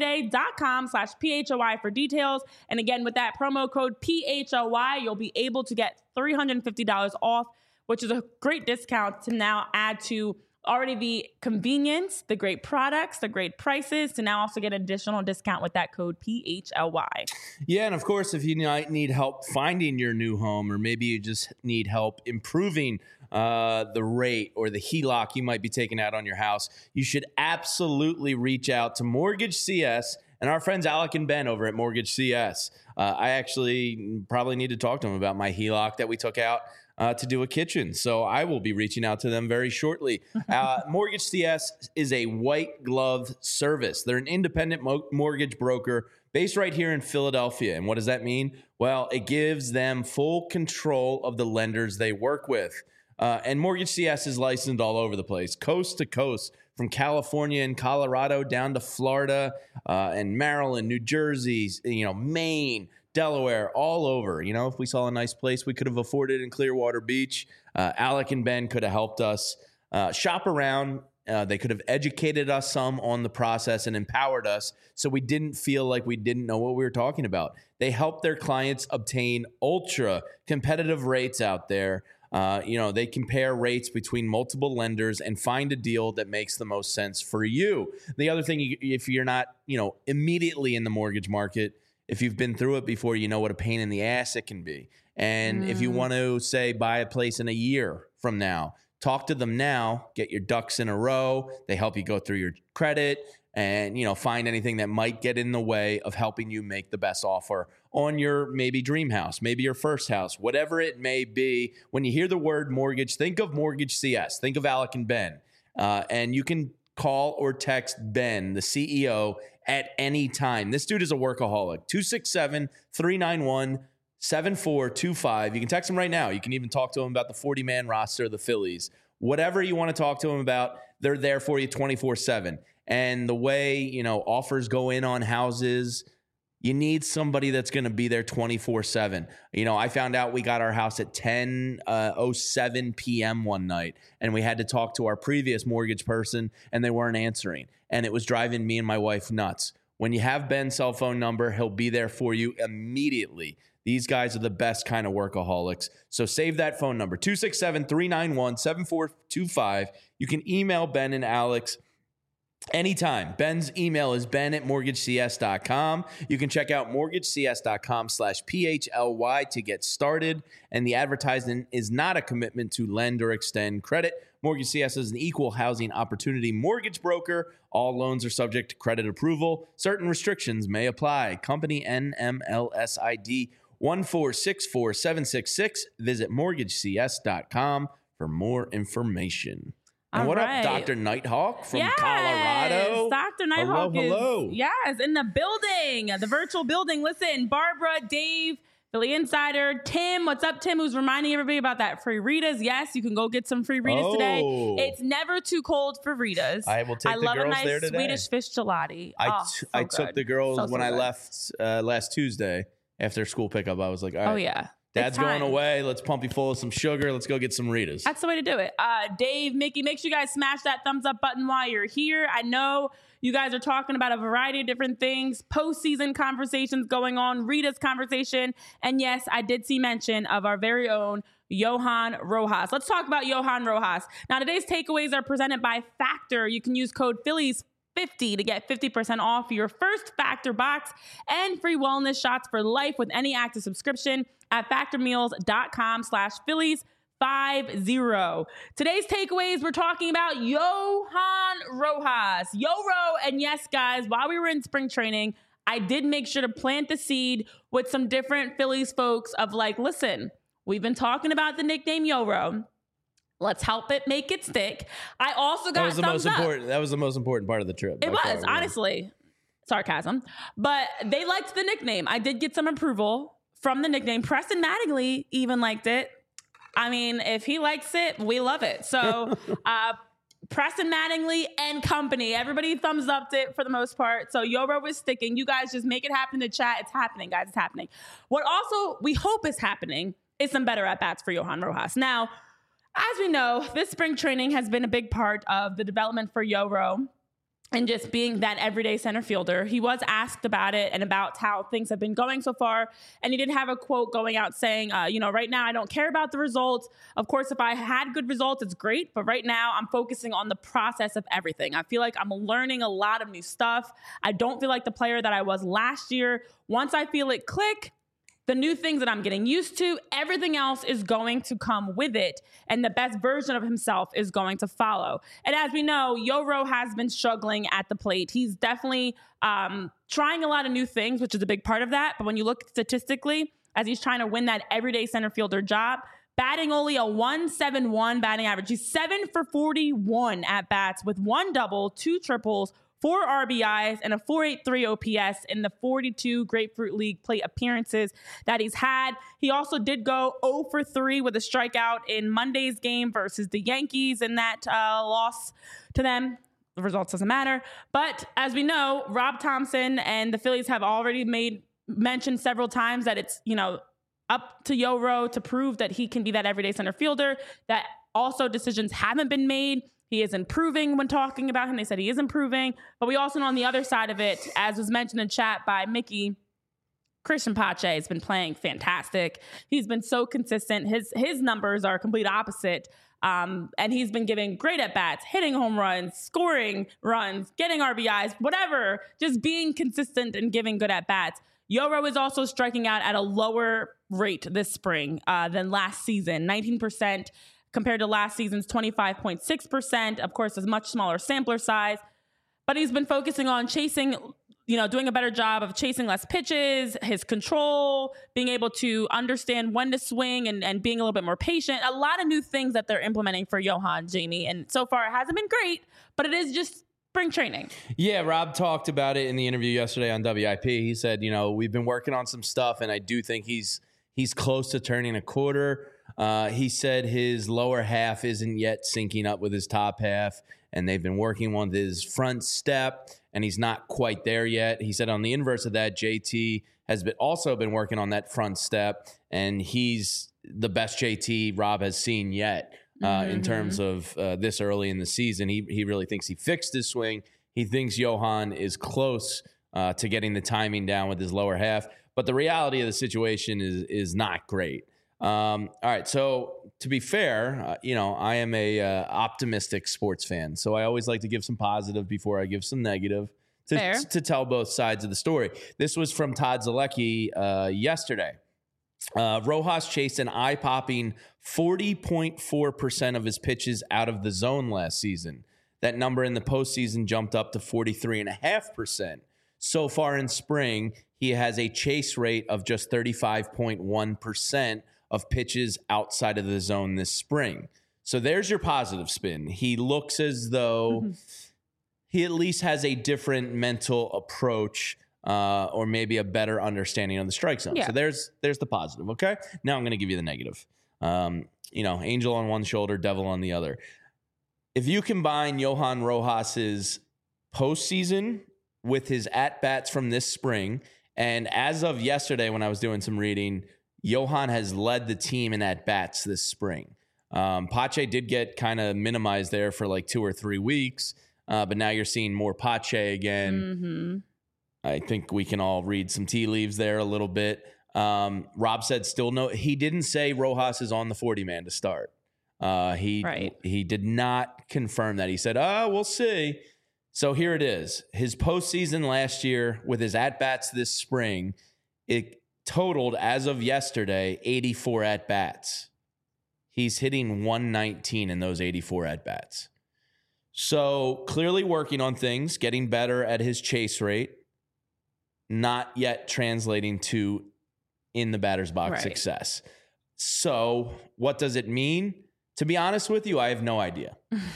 empiretoday.com/PHLY for details. And again, with that promo code PHLY, you'll be able to get $350 off, which is a great discount to now add to already the convenience, the great products, the great prices, to now also get an additional discount with that code PHLY. Yeah, and of course, if you need help finding your new home, or maybe you just need help improving the rate or the HELOC you might be taking out on your house, you should absolutely reach out to Mortgage CS and our friends Alec and Ben over at Mortgage CS. I actually probably need to talk to them about my HELOC that we took out to do a kitchen. So I will be reaching out to them very shortly. Mortgage CS is a white glove service. They're an independent mortgage broker based right here in Philadelphia. And what does that mean? Well, it gives them full control of the lenders they work with. And Mortgage CS is licensed all over the place, coast to coast, from California and Colorado down to Florida and Maryland, New Jersey, Maine, Delaware, all over. If we saw a nice place we could have afforded in Clearwater Beach, Alec and Ben could have helped us shop around. They could have educated us some on the process and empowered us so we didn't feel like we didn't know what we were talking about. They help their clients obtain ultra competitive rates out there. They compare rates between multiple lenders and find a deal that makes the most sense for you. The other thing, if you're not, immediately in the mortgage market, if you've been through it before, you know what a pain in the ass it can be. And if you want to, say, buy a place in a year from now, talk to them now, get your ducks in a row. They help you go through your credit and, find anything that might get in the way of helping you make the best offer on your maybe dream house, maybe your first house, whatever it may be. When you hear the word mortgage, think of Mortgage CS, think of Alec and Ben. And you can call or text Ben, the CEO, at any time. This dude is a workaholic. 267-391-7425. You can text him right now. You can even talk to him about the 40-man roster of the Phillies. Whatever you want to talk to him about, they're there for you 24/7. And the way, offers go in on houses, you need somebody that's going to be there 24/7. I found out we got our house at 10:07 p.m. one night, and we had to talk to our previous mortgage person, and they weren't answering. And it was driving me and my wife nuts. When you have Ben's cell phone number, he'll be there for you immediately. These guys are the best kind of workaholics. So save that phone number, 267-391-7425. You can email Ben and Alex anytime. Ben's email is ben@mortgagecs.com. You can check out mortgagecs.com/PHLY to get started. And the advertisement is not a commitment to lend or extend credit. Mortgage CS is an equal housing opportunity mortgage broker. All loans are subject to credit approval. Certain restrictions may apply. Company NMLS ID 1464766. Visit mortgagecs.com for more information. And what up, Dr. Nighthawk from Colorado? Dr. Nighthawk hello. Is in the building, the virtual building. Listen, Barbara, Dave, Philly Insider, Tim. What's up, Tim? Who's reminding everybody about that free Ritas. Yes, you can go get some free Ritas today. It's never too cold for Ritas. I will take the girls there today. I love a nice Swedish fish gelati. I took the girls when I left last Tuesday after school pickup. I was like, all right. Oh, yeah. Dad's going away. Let's pump you full of some sugar. Let's go get some Ritas. That's the way to do it. Dave, Mickey, make sure you guys smash that thumbs up button while you're here. I know you guys are talking about a variety of different things, postseason conversations going on, Rita's conversation. And yes, I did see mention of our very own Johan Rojas. Let's talk about Johan Rojas. Now, today's takeaways are presented by Factor. You can use code Phillies50 to get 50% off your first Factor box and free wellness shots for life with any active subscription at factormeals.com/Phillies50. Today's takeaways, we're talking about Johan Rojas. Yoro, and yes, guys, while we were in spring training, I did make sure to plant the seed with some different Phillies folks of like, listen, we've been talking about the nickname Yoro. Let's help it make it stick. I also got thumbs up. That was the most important part of the trip. It was, honestly. Sarcasm. But they liked the nickname. I did get some approval from the nickname. Preston Mattingly even liked it. I mean, if he likes it, we love it. So Preston Mattingly and company, everybody thumbs upped it for the most part. So Yoro was sticking. You guys just make it happen in the chat. It's happening, guys. It's happening. What also we hope is happening is some better at-bats for Johan Rojas. Now, as we know, this spring training has been a big part of the development for Yoro and just being that everyday center fielder. He was asked about it and about how things have been going so far. And he did have a quote going out saying, right now I don't care about the results. Of course, if I had good results, it's great. But right now I'm focusing on the process of everything. I feel like I'm learning a lot of new stuff. I don't feel like the player that I was last year. Once I feel it click, the new things that I'm getting used to, everything else is going to come with it. And the best version of himself is going to follow. And as we know, Yoro has been struggling at the plate. He's definitely trying a lot of new things, which is a big part of that. But when you look statistically, as he's trying to win that everyday center fielder job, batting only a 171 batting average. He's 7 for 41 at bats with 1 double, 2 triples, 4 RBIs, and a .483 OPS in the 42 Grapefruit League plate appearances that he's had. He also did go 0 for 3 with a strikeout in Monday's game versus the Yankees in that loss to them. The results doesn't matter. But as we know, Rob Thompson and the Phillies have already mentioned several times that it's, up to Yoro to prove that he can be that everyday center fielder, that also decisions haven't been made. He is improving when talking about him. They said he is improving. But we also know on the other side of it, as was mentioned in chat by Mickey, Christian Pache has been playing fantastic. He's been so consistent. His numbers are complete opposite. And he's been giving great at-bats, hitting home runs, scoring runs, getting RBIs, whatever, just being consistent and giving good at-bats. Yoro is also striking out at a lower rate this spring than last season, 19% compared to last season's 25.6%. Of course, a much smaller sampler size. But he's been focusing on chasing, doing a better job of chasing less pitches, his control, being able to understand when to swing and being a little bit more patient. A lot of new things that they're implementing for Johan, Jamie. And so far, it hasn't been great, but it is just spring training. Yeah, Rob talked about it in the interview yesterday on WIP. He said, we've been working on some stuff, and I do think he's close to turning a quarter. He said his lower half isn't yet syncing up with his top half, and they've been working on his front step, and he's not quite there yet. He said on the inverse of that, JT has also been working on that front step, and he's the best JT Rob has seen yet. In terms of this early in the season, he really thinks he fixed his swing. He thinks Johan is close to getting the timing down with his lower half. But the reality of the situation is not great. All right, so to be fair, I am a optimistic sports fan, so I always like to give some positive before I give some negative to tell both sides of the story. This was from Todd Zalecki yesterday. Rojas chased an eye-popping 40.4% of his pitches out of the zone last season. That number in the postseason jumped up to 43.5%. So far in spring, he has a chase rate of just 35.1% of pitches outside of the zone this spring. So there's your positive spin. He looks as though he at least has a different mental approach or maybe a better understanding of the strike zone. Yeah. So there's the positive, okay? Now I'm going to give you the negative. Angel on one shoulder, devil on the other. If you combine Johan Rojas's postseason with his at-bats from this spring, and as of yesterday when I was doing some reading, Johan has led the team in at-bats this spring. Pache did get kind of minimized there for like 2 or 3 weeks, but now you're seeing more Pache again. I think we can all read some tea leaves there a little bit. Rob said still no. He didn't say Rojas is on the 40-man to start. He did not confirm that. He said, we'll see. So here it is. His postseason last year with his at-bats this spring, it totaled, as of yesterday, 84 at-bats. He's hitting 119 in those 84 at-bats. So clearly working on things, getting better at his chase rate, not yet translating to in the batter's box success. So what does it mean? To be honest with you, I have no idea.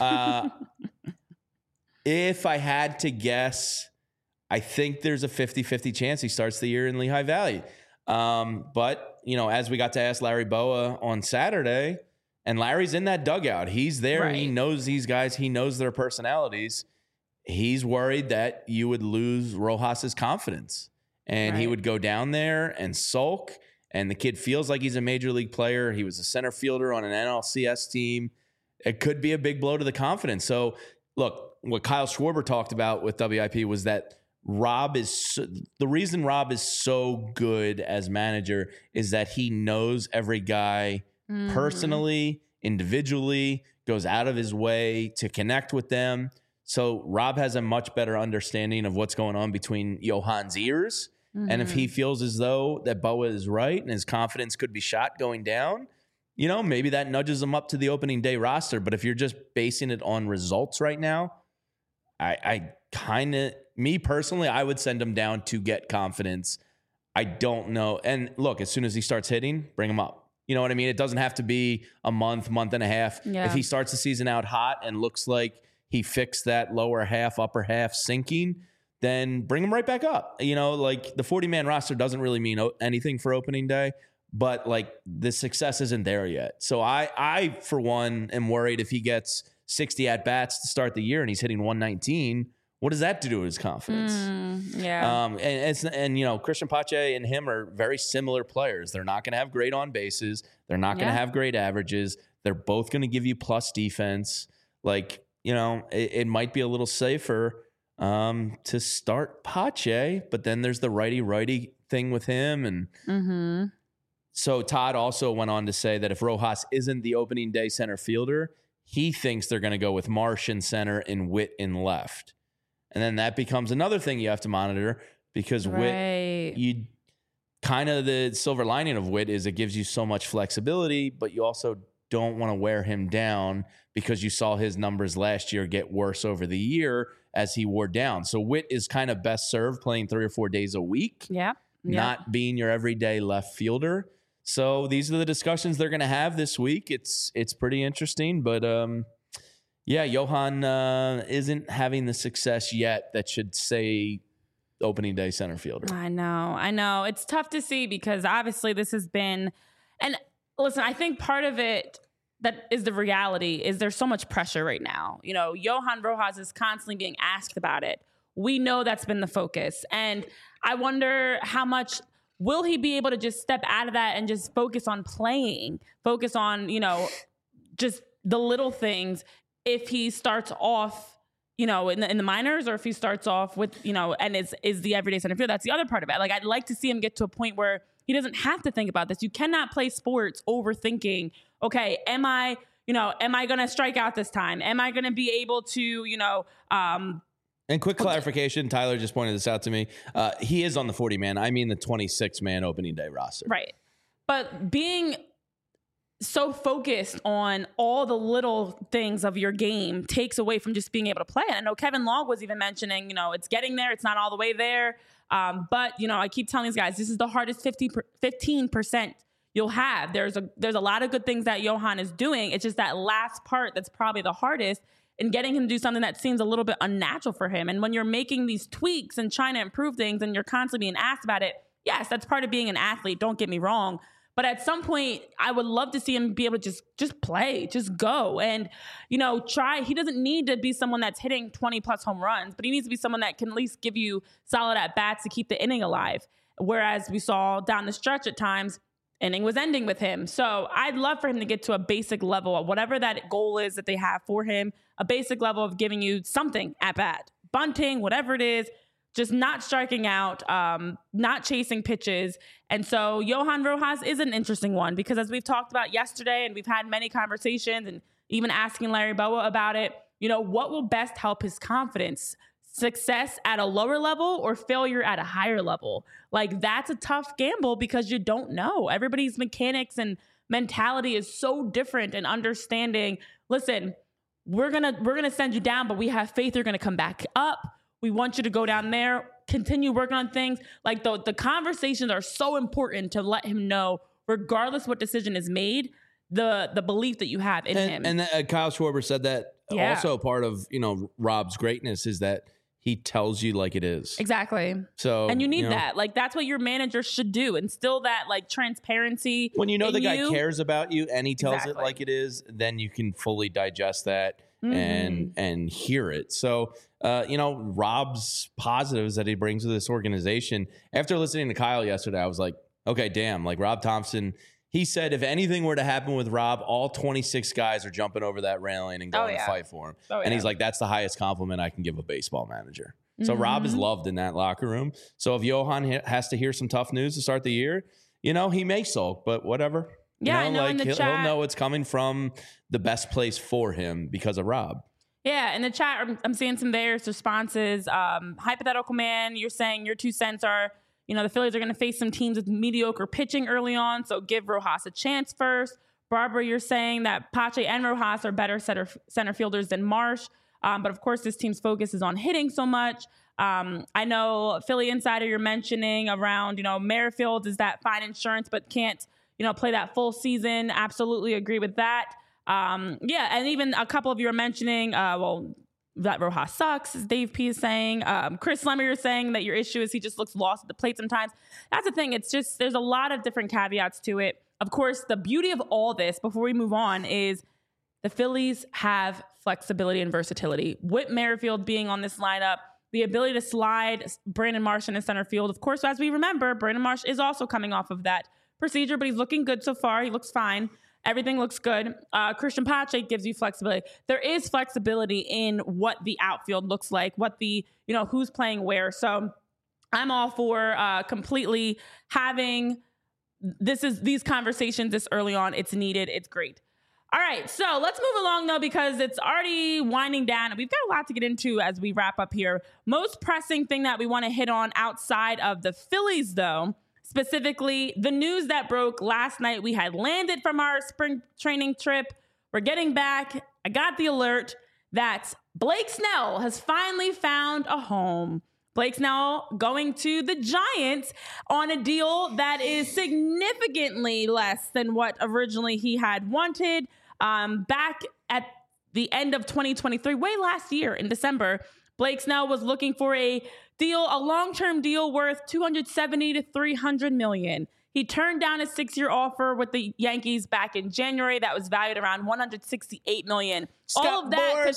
If I had to guess, I think there's a 50-50 chance he starts the year in Lehigh Valley. But, as we got to ask Larry Boa on Saturday, and Larry's in that dugout. He's there. Right. He knows these guys. He knows their personalities. He's worried that you would lose Rojas's confidence and he would go down there and sulk. And the kid feels like he's a major league player. He was a center fielder on an NLCS team. It could be a big blow to the confidence. So look, what Kyle Schwarber talked about with WIP was that the reason Rob is so good as manager is that he knows every guy personally, individually, goes out of his way to connect with them. So Rob has a much better understanding of what's going on between Johan's ears. And if he feels as though that Boa is right and his confidence could be shot going down, maybe that nudges him up to the opening day roster. But if you're just basing it on results right now, me personally, I would send him down to get confidence. I don't know. And look, as soon as he starts hitting, bring him up. You know what I mean? It doesn't have to be a month and a half. Yeah. If he starts the season out hot and looks like he fixed that lower half, upper half sinking, then bring him right back up. You know, like the 40-man roster doesn't really mean anything for opening day, but like the success isn't there yet. So I for one, am worried if he gets 60 at-bats to start the year and he's hitting 119, what does that do to his confidence? And you know, Christian Pache and him are very similar players. They're not going to have great on bases. They're not going to have great averages. They're both going to give you plus defense. Like, you know, it might be a little safer to start Pache, but then there's the righty thing with him. And so Todd also went on to say that if Rojas isn't the opening day center fielder, he thinks they're going to go with Marsh in center and Witt in left. And then that becomes another thing you have to monitor because Witt, you kind of the silver lining of Witt is it gives you so much flexibility, but you also don't want to wear him down because you saw his numbers last year get worse over the year as he wore down. So Witt is kind of best served playing 3 or 4 days a week, not being your everyday left fielder. So these are the discussions they're going to have this week. It's pretty interesting, but Johan isn't having the success yet that should say opening day center fielder. I know. It's tough to see because obviously this has been, and listen, I think part of it that is the reality is there's so much pressure right now. You know, Johan Rojas is constantly being asked about it. We know that's been the focus. And I wonder how much will he be able to just step out of that and just focus on playing, focus on, you know, just the little things if he starts off, you know, in the minors, or if he starts off with, you know, and is the everyday center field. That's the other part of it. Like, I'd like to see him get to a point where he doesn't have to think about this. You cannot play sports overthinking, okay, am I going to strike out this time? Am I going to be able to, you know, and quick clarification, Tyler just pointed this out to me. He is on the 40-man. I mean the 26-man opening day roster. Right. But being so focused on all the little things of your game takes away from just being able to play. And I know Kevin Long was even mentioning, you know, it's getting there. It's not all the way there. But, you know, I keep telling these guys, this is the hardest 15% you'll have. There's a lot of good things that Johan is doing. It's just that last part that's probably the hardest, and getting him to do something that seems a little bit unnatural for him. And when you're making these tweaks and trying to improve things and you're constantly being asked about it, yes, that's part of being an athlete. Don't get me wrong. But at some point, I would love to see him be able to just play, just go. And, you know, try. He doesn't need to be someone that's hitting 20-plus home runs, but he needs to be someone that can at least give you solid at-bats to keep the inning alive. Whereas we saw down the stretch at times, inning was ending with him. So I'd love for him to get to a basic level of whatever that goal is that they have for him, a basic level of giving you something at bat, bunting, whatever it is, just not striking out, not chasing pitches. And so Johan Rojas is an interesting one because as we've talked about yesterday and we've had many conversations and even asking Larry Bowa about it, you know, what will best help his confidence? Success at a lower level or failure at a higher level? Like, that's a tough gamble because you don't know. Everybody's mechanics and mentality is so different, and understanding, listen, we're gonna send you down, but we have faith you're gonna come back up. We want you to go down there, continue working on things. Like, the conversations are so important to let him know, regardless what decision is made, the belief that you have in him. And Kyle Schwarber said that also part of, you know, Rob's greatness is that he tells you like it is. Exactly. So, and you need that. Like, that's what your manager should do. Instill that, like, transparency. When you know the guy cares about you and he tells it like it is, then you can fully digest that and hear it. So, you know, Rob's positives that he brings to this organization. After listening to Kyle yesterday, I was like, okay, damn. Like, Rob Thompson, he said if anything were to happen with Rob, all 26 guys are jumping over that railing and going to fight for him. And he's like, that's the highest compliment I can give a baseball manager. So Rob is loved in that locker room. So if Johan has to hear some tough news to start the year, you know, he may sulk, but whatever. Yeah, you know, I know like he'll know it's coming from the best place for him because of Rob. Yeah, in the chat, I'm seeing some various responses. Hypothetical Man, you're saying your 2 cents are, you know, the Phillies are going to face some teams with mediocre pitching early on, so give Rojas a chance first. Barbara, you're saying that Pache and Rojas are better center fielders than Marsh. But, of course, this team's focus is on hitting so much. I know Philly Insider, you're mentioning around, you know, Merrifield is that fine insurance but can't, you know, play that full season. Absolutely agree with that. Yeah, and even a couple of you are mentioning, that Rojas sucks, as Dave P is saying. Chris Lemmer is saying that your issue is he just looks lost at the plate sometimes. That's the thing. It's just, there's a lot of different caveats to it. Of course, the beauty of all this, before we move on, is the Phillies have flexibility and versatility. Whit Merrifield being on this lineup, the ability to slide Brandon Marsh in center field. Of course, as we remember, Brandon Marsh is also coming off of that procedure, but he's looking good so far. He looks fine. Everything looks good. Christian Pache gives you flexibility. There is flexibility in what the outfield looks like, what the, who's playing where. So I'm all for completely having these conversations this early on. It's needed. It's great. All right, so let's move along, though, because it's already winding down. And we've got a lot to get into as we wrap up here. Most pressing thing that we want to hit on outside of the Phillies, though, specifically the news that broke last night. We had landed from our spring training trip. We're getting back. I got the alert that Blake Snell has finally found a home. Blake's now going to the Giants on a deal that is significantly less than what originally he had wanted. Back at the end of 2023, way last year in December, Blake Snell was looking for a long-term deal worth $270 to $300 million. He turned down a 6-year offer with the Yankees back in January that was valued around $168 million. All of that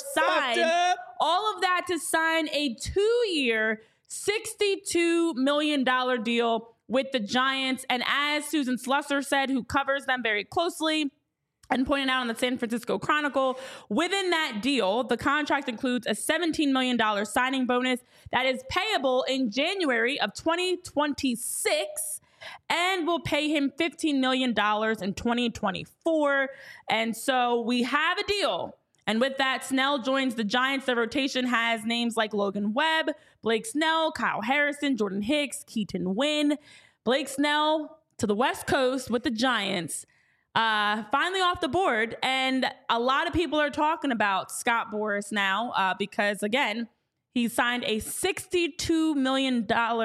to sign a 2-year, $62 million deal with the Giants. And as Susan Slusser said, who covers them very closely and pointed out on the San Francisco Chronicle, within that deal, the contract includes a $17 million signing bonus that is payable in January of 2026 and will pay him $15 million in 2024. And so we have a deal. And with that, Snell joins the Giants. The rotation has names like Logan Webb, Blake Snell, Kyle Harrison, Jordan Hicks, Keaton Winn. Blake Snell to the West Coast with the Giants. Finally off the board. And a lot of people are talking about Scott Boras now because, again, he signed a $62 million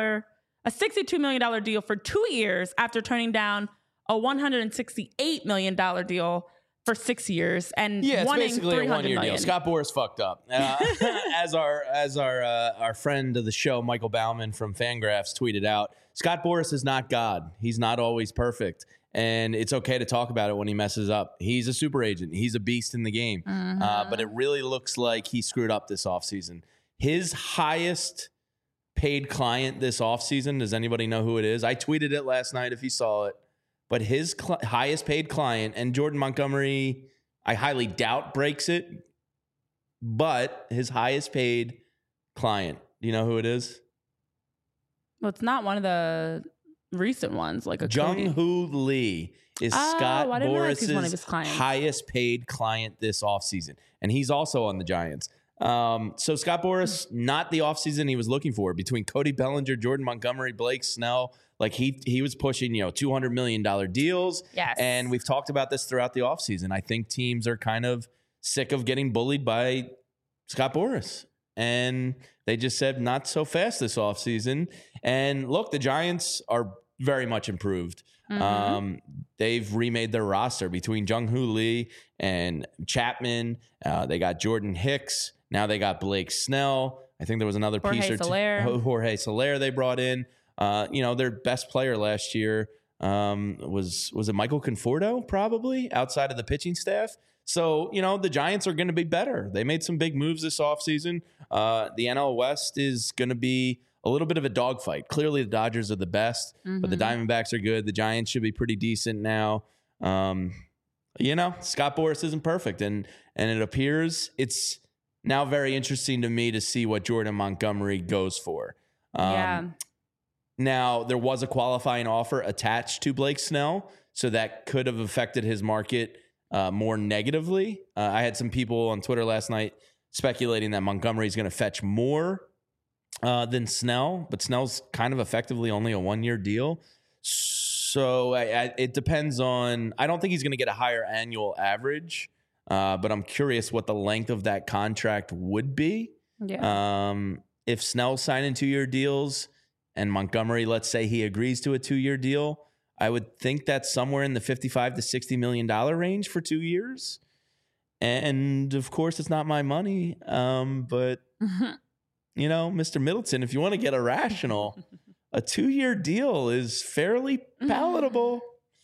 deal for 2 years after turning down a $168 million deal for 6 years and it's wanting basically a 1-year million. deal. Scott Boras fucked up. As our friend of the show, Michael Bauman from Fangraphs, tweeted out, Scott Boras is not God. He's not always perfect. And it's okay to talk about it when he messes up. He's a super agent. He's a beast in the game. But it really looks like he screwed up this offseason. His highest paid client this offseason, does anybody know who it is? I tweeted it last night if you saw it. But his highest paid client, and Jordan Montgomery, I highly doubt breaks it, but his highest paid client, do you know who it is? Well, it's not one of the recent ones, like a Jung-Hoo Lee is Scott Boras' clients. highest paid client this offseason. And he's also on the Giants. So Scott Boras, not the offseason he was looking for. Between Cody Bellinger, Jordan Montgomery, Blake Snell, like he was pushing, $200 million deals. Yes. And we've talked about this throughout the offseason. I think teams are kind of sick of getting bullied by Scott Boras. And they just said, not so fast this offseason. And look, the Giants are very much improved. They've remade their roster between Jung-Hoo Lee and Chapman. They got Jordan Hicks. Now they got Blake Snell. I think there was another piece or two. Jorge Soler they brought in. Their best player last year was it Michael Conforto, probably, outside of the pitching staff. So, the Giants are going to be better. They made some big moves this offseason. The NL West is going to be a little bit of a dogfight. Clearly, the Dodgers are the best, but the Diamondbacks are good. The Giants should be pretty decent now. Scott Boras isn't perfect, and it appears it's now very interesting to me to see what Jordan Montgomery goes for. Now, there was a qualifying offer attached to Blake Snell, so that could have affected his market more negatively. I had some people on Twitter last night speculating that Montgomery is going to fetch more than Snell, but Snell's kind of effectively only a 1-year deal. So it depends on, I don't think he's going to get a higher annual average, but I'm curious what the length of that contract would be. Yeah. If Snell's signing 2-year deals and Montgomery, let's say he agrees to a 2-year deal, I would think that's somewhere in the $55 to $60 million range for 2 years. And of course, it's not my money. But, you know, Mr. Middleton, if you want to get irrational, a 2-year deal is fairly palatable.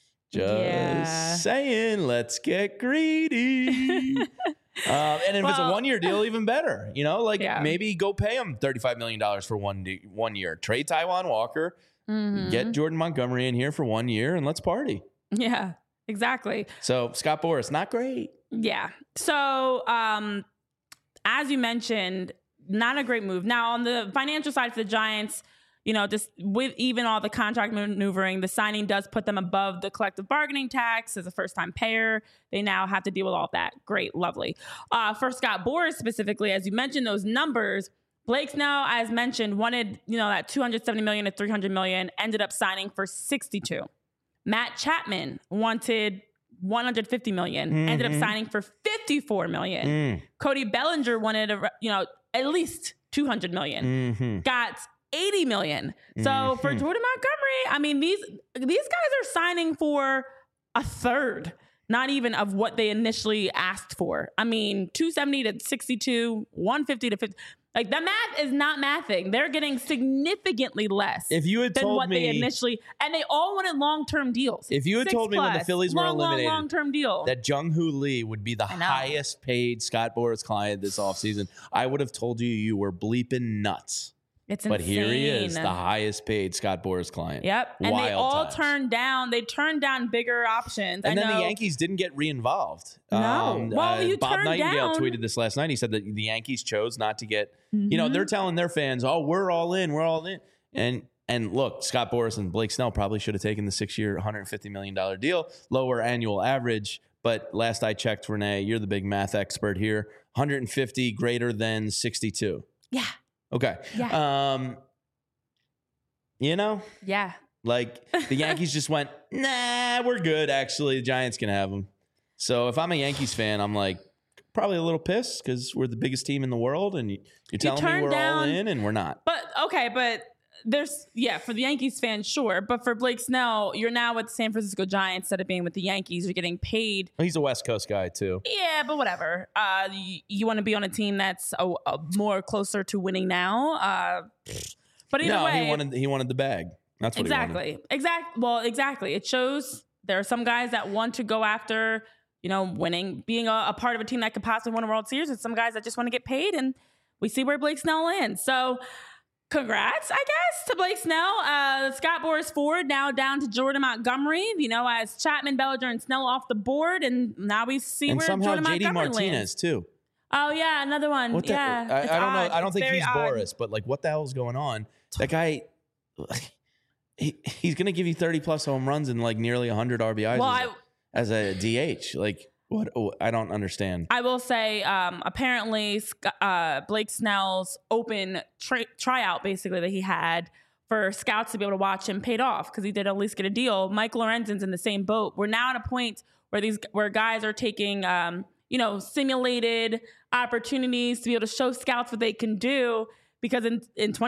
Just saying, let's get greedy. And if it's a 1-year deal, even better. You know, like maybe go pay him $35 million for 1 year. Trade Taijuan Walker, get Jordan Montgomery in here for 1 year, and let's party. Yeah, exactly. So Scott Boras, not great. Yeah. So as you mentioned, not a great move. Now, on the financial side for the Giants, you know, just with even all the contract maneuvering, the signing does put them above the collective bargaining tax as a first-time payer. They now have to deal with all of that. Great, lovely. For Scott Boras specifically, as you mentioned, those numbers, Blake Snell, as mentioned, wanted, you know, that $270 million to $300 million, ended up signing for $62. Matt Chapman wanted $150 million, ended up signing for $54 million. Cody Bellinger wanted, at least $200 million. Got $80 million. So for Jordan Montgomery, I mean, these guys are signing for a third, not even of what they initially asked for. I mean, 270 to 62, 150 to 50. Like, the math is not mathing. They're getting significantly less if you had than told what me, they initially, and they all wanted long-term deals. If you had told me when the Phillies were eliminated long-term deal, that Jung-Hoo Lee would be the highest paid Scott Boras client this offseason, I would have told you were bleeping nuts. It's but insane. Here he is, the highest paid Scott Boras client. Yep. And Wild they all times. turned down bigger options. And then the Yankees didn't get re-involved. No. Well, Bob Nightingale down. tweeted this last night. He said that the Yankees chose not to get, you know, they're telling their fans, oh, we're all in. We're all in. And look, Scott Boras and Blake Snell probably should have taken the 6-year, $150 million deal, lower annual average. But last I checked, Renee, you're the big math expert here. 150 greater than 62. Yeah. Okay. Yeah. You know? Yeah. Like, the Yankees just went, nah, we're good, actually. The Giants can have them. So if I'm a Yankees fan, I'm like, probably a little pissed because we're the biggest team in the world and you're telling me we're all in and we're not. But, okay, but there's, for the Yankees fans, sure. But for Blake Snell, you're now with the San Francisco Giants instead of being with the Yankees. You're getting paid. He's a West Coast guy, too. Yeah, but whatever. You want to be on a team that's a more closer to winning now. But either way, he wanted the bag. That's what he wanted. Exactly. It shows there are some guys that want to go after, you know, winning, being a part of a team that could possibly win a World Series, and some guys that just want to get paid. And we see where Blake Snell lands. So congrats, I guess, to Blake Snell. Scott Boras forward now down to Jordan Montgomery, you know, as Chapman, Bellinger, and Snell off the board. And now we see where somehow Jordan JD Montgomery Martinez, lands. too. Oh, yeah, another one. I don't know. I don't think he's Boras, but like, what the hell is going on? That guy, he's going to give you 30-plus home runs and like nearly 100 RBIs as a DH. Like, what? Oh, I don't understand. I will say, apparently, Blake Snell's open tryout, basically, that he had for scouts to be able to watch him paid off because he did at least get a deal. Mike Lorenzen's in the same boat. We're now at a point where guys are taking, simulated opportunities to be able to show scouts what they can do. Because in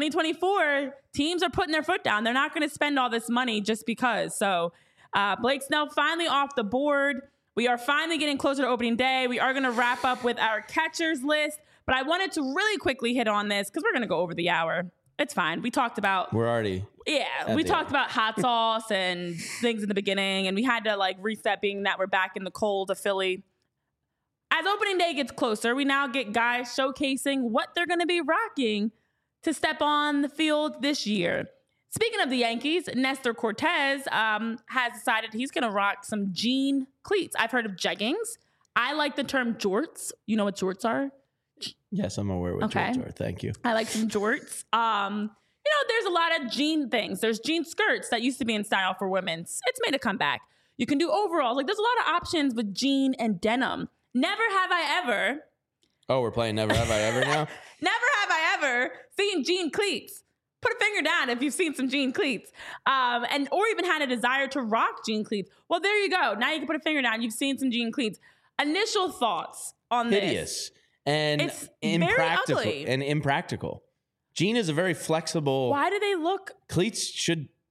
2024, teams are putting their foot down. They're not going to spend all this money just because. So Blake Snell finally off the board. We are finally getting closer to opening day. We are going to wrap up with our catchers list. But I wanted to really quickly hit on this because we're going to go over the hour. It's fine. We talked about... We're already... Yeah, we talked about hot sauce and things in the beginning. And we had to like reset being that we're back in the cold of Philly. As opening day gets closer, we now get guys showcasing what they're going to be rocking to step on the field this year. Speaking of the Yankees, Nestor Cortez has decided he's going to rock some jean cleats. I've heard of jeggings. I like the term jorts. You know what jorts are? Yes, I'm aware what jorts are. Thank you. I like some jorts. There's a lot of jean things. There's jean skirts that used to be in style for women. It's made a comeback. You can do overalls. Like, there's a lot of options with jean and denim. Never have I ever. Oh, we're playing Never Have I Ever now? Never have I ever seen jean cleats. Put a finger down if you've seen some jean cleats. Or even had a desire to rock jean cleats. Well, there you go. Now you can put a finger down. You've seen some jean cleats. Initial thoughts on this. Hideous. And it's impractical. very ugly. And impractical. Jean is a very flexible... Why do they look... Cleats should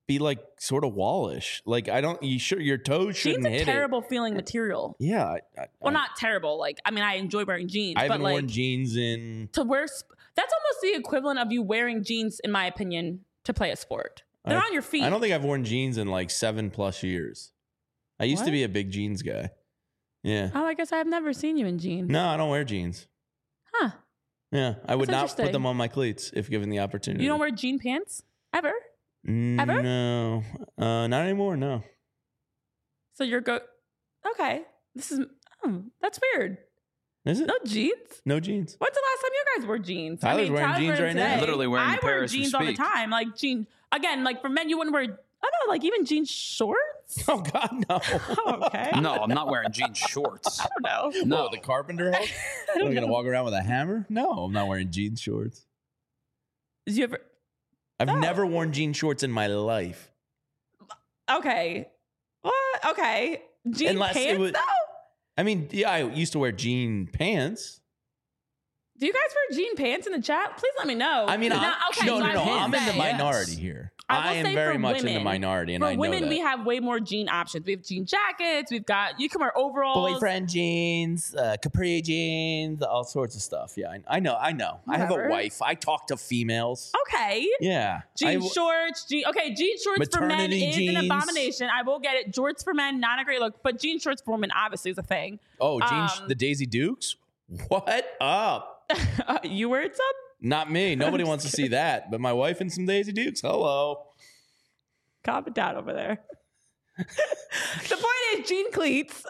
be like sort of wallish. Like your toes shouldn't Jeans hit a terrible feeling material. it. Yeah. Well, not terrible. Like, I mean, I enjoy wearing jeans. I haven't but worn like, jeans in. to wear, that's almost the equivalent of you wearing jeans, in my opinion, to play a sport. They're on your feet. I don't think I've worn jeans in like 7+ years. I used to be a big jeans guy. Yeah. Oh, I guess I've never seen you in jeans. No, I don't wear jeans. Huh. Yeah, I would That's not put interesting. them on my cleats if given the opportunity. You don't wear jean pants ever? Ever? No, not anymore. No. So you're okay. That's weird. Is it? No jeans? No jeans. When's the last time you guys wore jeans? Tyler's wearing jeans right now. today. Literally wearing I a pair wear as we jeans all the speak. time. Like jeans. Again, like for men, you wouldn't wear, I don't know, like even jean shorts? Oh God, no. Oh, okay. No, I'm not wearing jean shorts. I don't know. No, Oh, the carpenter help? Am I gonna walk around with a hammer? No, I'm not wearing jean shorts. Did you ever? I've No. never worn jean shorts in my life. Okay. What? Okay. Jean Unless it pants was- though? I mean, yeah, I used to wear jean pants. Do you guys wear jean pants in the chat? Please let me know. I mean, no, no, I will I'm in the say- minority here. I will I am say very for much in the women- minority, and For I know women, that. we have way more jean options. We have jean jackets. You can wear overalls. Boyfriend jeans, capri jeans, all sorts of stuff. Yeah, I know. I have a Whatever. wife. I talk to females. Okay. Yeah. Jean shorts. Jean shorts for men Maternity is an jeans. abomination. I will get it. Jorts for men, not a great look. But jean shorts for women obviously is a thing. Oh, the Daisy Dukes? What up? You wear some? Not me. Nobody wants to see that. But my wife and some Daisy Dukes. Hello. Calm it down over there. The point is, jean cleats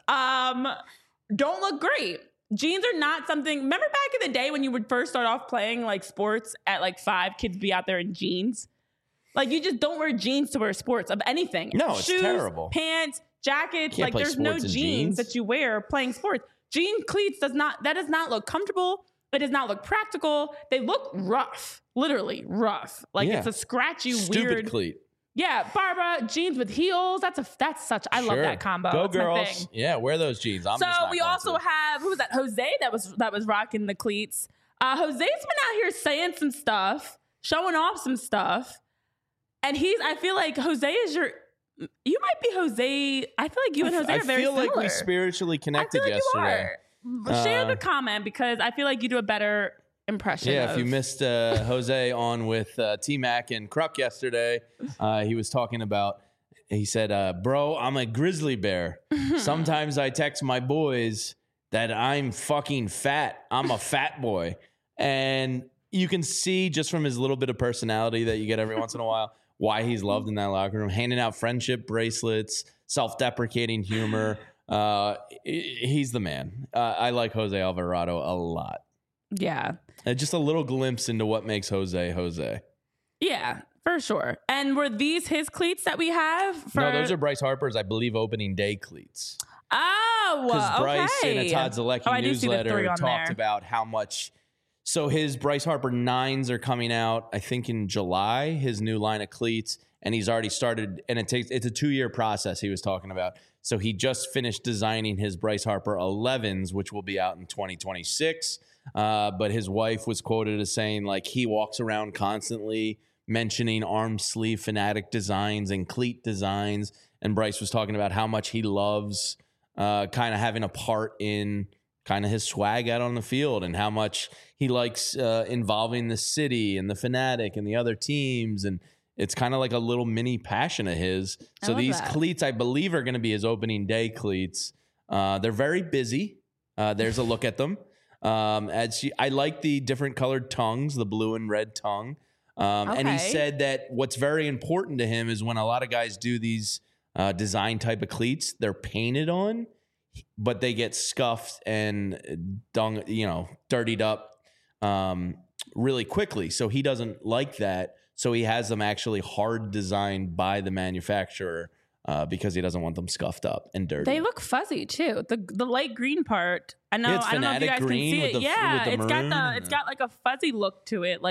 don't look great. Jeans are not something. Remember back in the day when you would first start off playing like sports at like 5, kids be out there in jeans. Like you just don't wear jeans to wear sports of anything. No, it's Shoes, terrible. Pants, jackets. Can't Like play there's no sports in jeans jeans. that you wear playing sports. Jean cleats does not look comfortable. It does not look practical. They look rough, literally rough. Like Yeah. it's a scratchy, Stupid weird. cleat. Yeah, Barbara, jeans with heels. That's such. I love Sure. that combo. Go That's my girls. thing. Yeah, wear those jeans. I'm So just not we going also to. have, who was that? Jose that was rocking the cleats. Jose's been out here saying some stuff, showing off some stuff, and I feel like Jose is you might be Jose. I feel like you and Jose I are very feel like similar. we spiritually connected I feel like yesterday. you are. Share the comment because I feel like you do a better impression. Yeah, if you of- missed Jose on with T-Mac and Kruk yesterday, he was talking about, he said, bro, I'm a grizzly bear. Sometimes I text my boys that I'm fucking fat. I'm a fat boy. And you can see just from his little bit of personality that you get every once in a while why he's loved in that locker room, handing out friendship bracelets, self-deprecating humor. He's the man. I like Jose Alvarado a lot. Yeah. Just a little glimpse into what makes Jose. Yeah, for sure. And were these his cleats that we have? No, those are Bryce Harper's, I believe, opening day cleats. Oh, Because Bryce in a okay. Todd Zalecki Oh, I do see the 3 newsletter on talked there. about how much. So his Bryce Harper 9s are coming out, I think, in July, his new line of cleats. And he's already started, and it's a 2-year process he was talking about. So he just finished designing his Bryce Harper 11s, which will be out in 2026. But his wife was quoted as saying, like, he walks around constantly mentioning arm sleeve fanatic designs and cleat designs. And Bryce was talking about how much he loves kind of having a part in kind of his swag out on the field and how much he likes involving the city and the Fanatic and the other teams. And it's kind of like a little mini passion of his. So love these that. cleats, I believe, are going to be his opening day cleats. They're very busy. There's a look at them. I like the different colored tongues, the blue and red tongue. And he Okay. said that what's very important to him is when a lot of guys do these design type of cleats, they're painted on, but they get scuffed and dirtied up really quickly. So he doesn't like that. So he has them actually hard designed by the manufacturer because he doesn't want them scuffed up and dirty. They look fuzzy too. The light green part. I know. Yeah, it's I don't know if you Fanatic guys green can see with it. the- Yeah, with the maroon. it's got like a fuzzy look to it.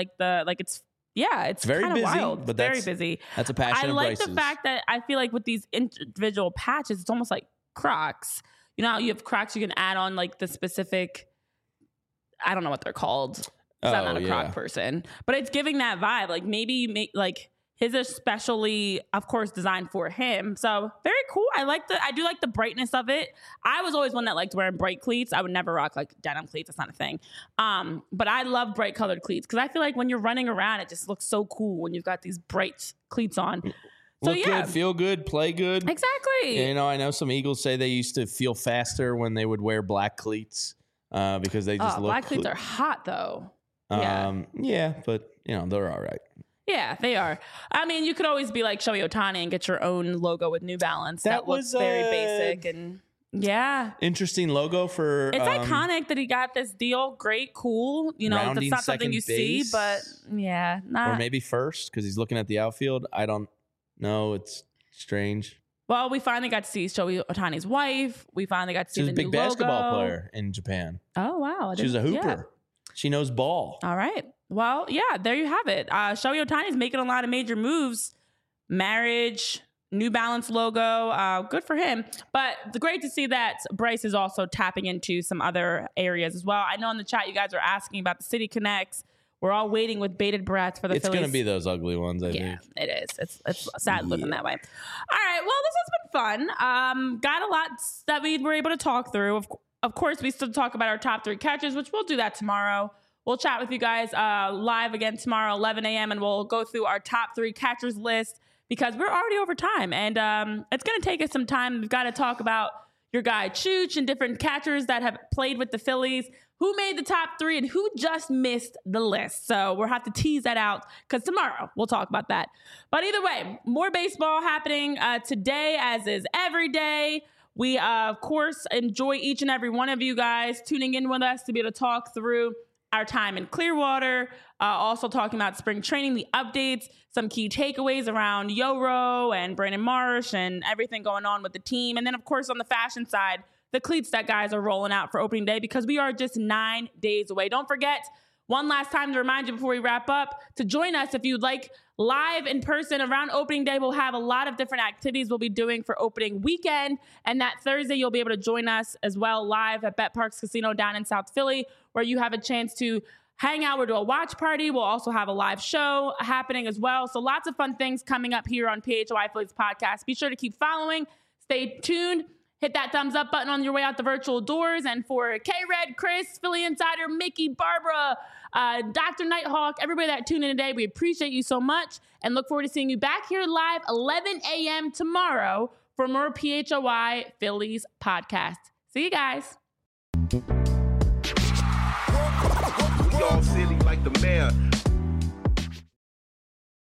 It's very kind of busy, wild. but It's very that's- busy. that's a passion I of like the Bryce's. fact that I feel like with these individual patches, it's almost like Crocs. You know, how you have Crocs, you can add on like the specific. I don't know what they're called. 'Cause I'm not a Croc person, but it's giving that vibe. Like maybe you make like His are specially, of course, designed for him. So very cool. I do like the brightness of it. I was always one that liked wearing bright cleats. I would never rock like denim cleats. That's not a thing. But I love bright colored cleats because I feel like when you're running around, it just looks so cool when you've got these bright cleats on. So Look good, feel good, play good. Exactly. You know, I know some Eagles say they used to feel faster when they would wear black cleats because they just look. Black cleats are hot though. Yeah, but you know they're all right. Yeah, they are. I mean, you could always be like Shohei Ohtani and get your own logo with New Balance. That looks very basic and interesting logo for. It's iconic that he got this deal. Great, cool. You know, that's not something you see, but or maybe first because he's looking at the outfield. I don't know. It's strange. Well, we finally got to see Shohei Ohtani's wife. We finally got to see the new logo. She's a big basketball player in Japan. Oh wow, she's a hooper. Yeah. She knows ball. All right. Well, yeah, there you have it. Shohei Ohtani's making a lot of major moves. Marriage, New Balance logo. Good for him. But it's great to see that Bryce is also tapping into some other areas as well. I know in the chat you guys are asking about the City Connects. We're all waiting with bated breath for the Phillies. It's going to be those ugly ones, I think. Yeah, it is. It's sad looking that way. All right. Well, this has been fun. Got a lot that we were able to talk through. Of course, we still talk about our top 3 catches, which we'll do that tomorrow. We'll chat with you guys live again tomorrow, 11 a.m., and we'll go through our top 3 catchers list because we're already over time, and it's going to take us some time. We've got to talk about your guy Chooch and different catchers that have played with the Phillies, who made the top 3 and who just missed the list. So we'll have to tease that out because tomorrow we'll talk about that. But either way, more baseball happening today, as is every day. We, of course, enjoy each and every one of you guys tuning in with us to be able to talk through our time in Clearwater, also talking about spring training, the updates, some key takeaways around Yoro and Brandon Marsh and everything going on with the team. And then, of course, on the fashion side, the cleats that guys are rolling out for opening day because we are just 9 days away. Don't forget, one last time to remind you before we wrap up, to join us if you'd like live in person around opening day. We'll have a lot of different activities we'll be doing for opening weekend. And that Thursday, you'll be able to join us as well live at Bet Parks Casino down in South Philly, where you have a chance to hang out. We'll do a watch party. We'll also have a live show happening as well. So lots of fun things coming up here on PHY Phillies podcast. Be sure to keep following. Stay tuned. Hit that thumbs up button on your way out the virtual doors. And for K-Red, Chris, Philly Insider, Mickey, Barbara, Dr. Nighthawk, everybody that tuned in today, we appreciate you so much and look forward to seeing you back here live 11 a.m. tomorrow for more PHY Phillies podcast. See you guys. We all silly like the mayor.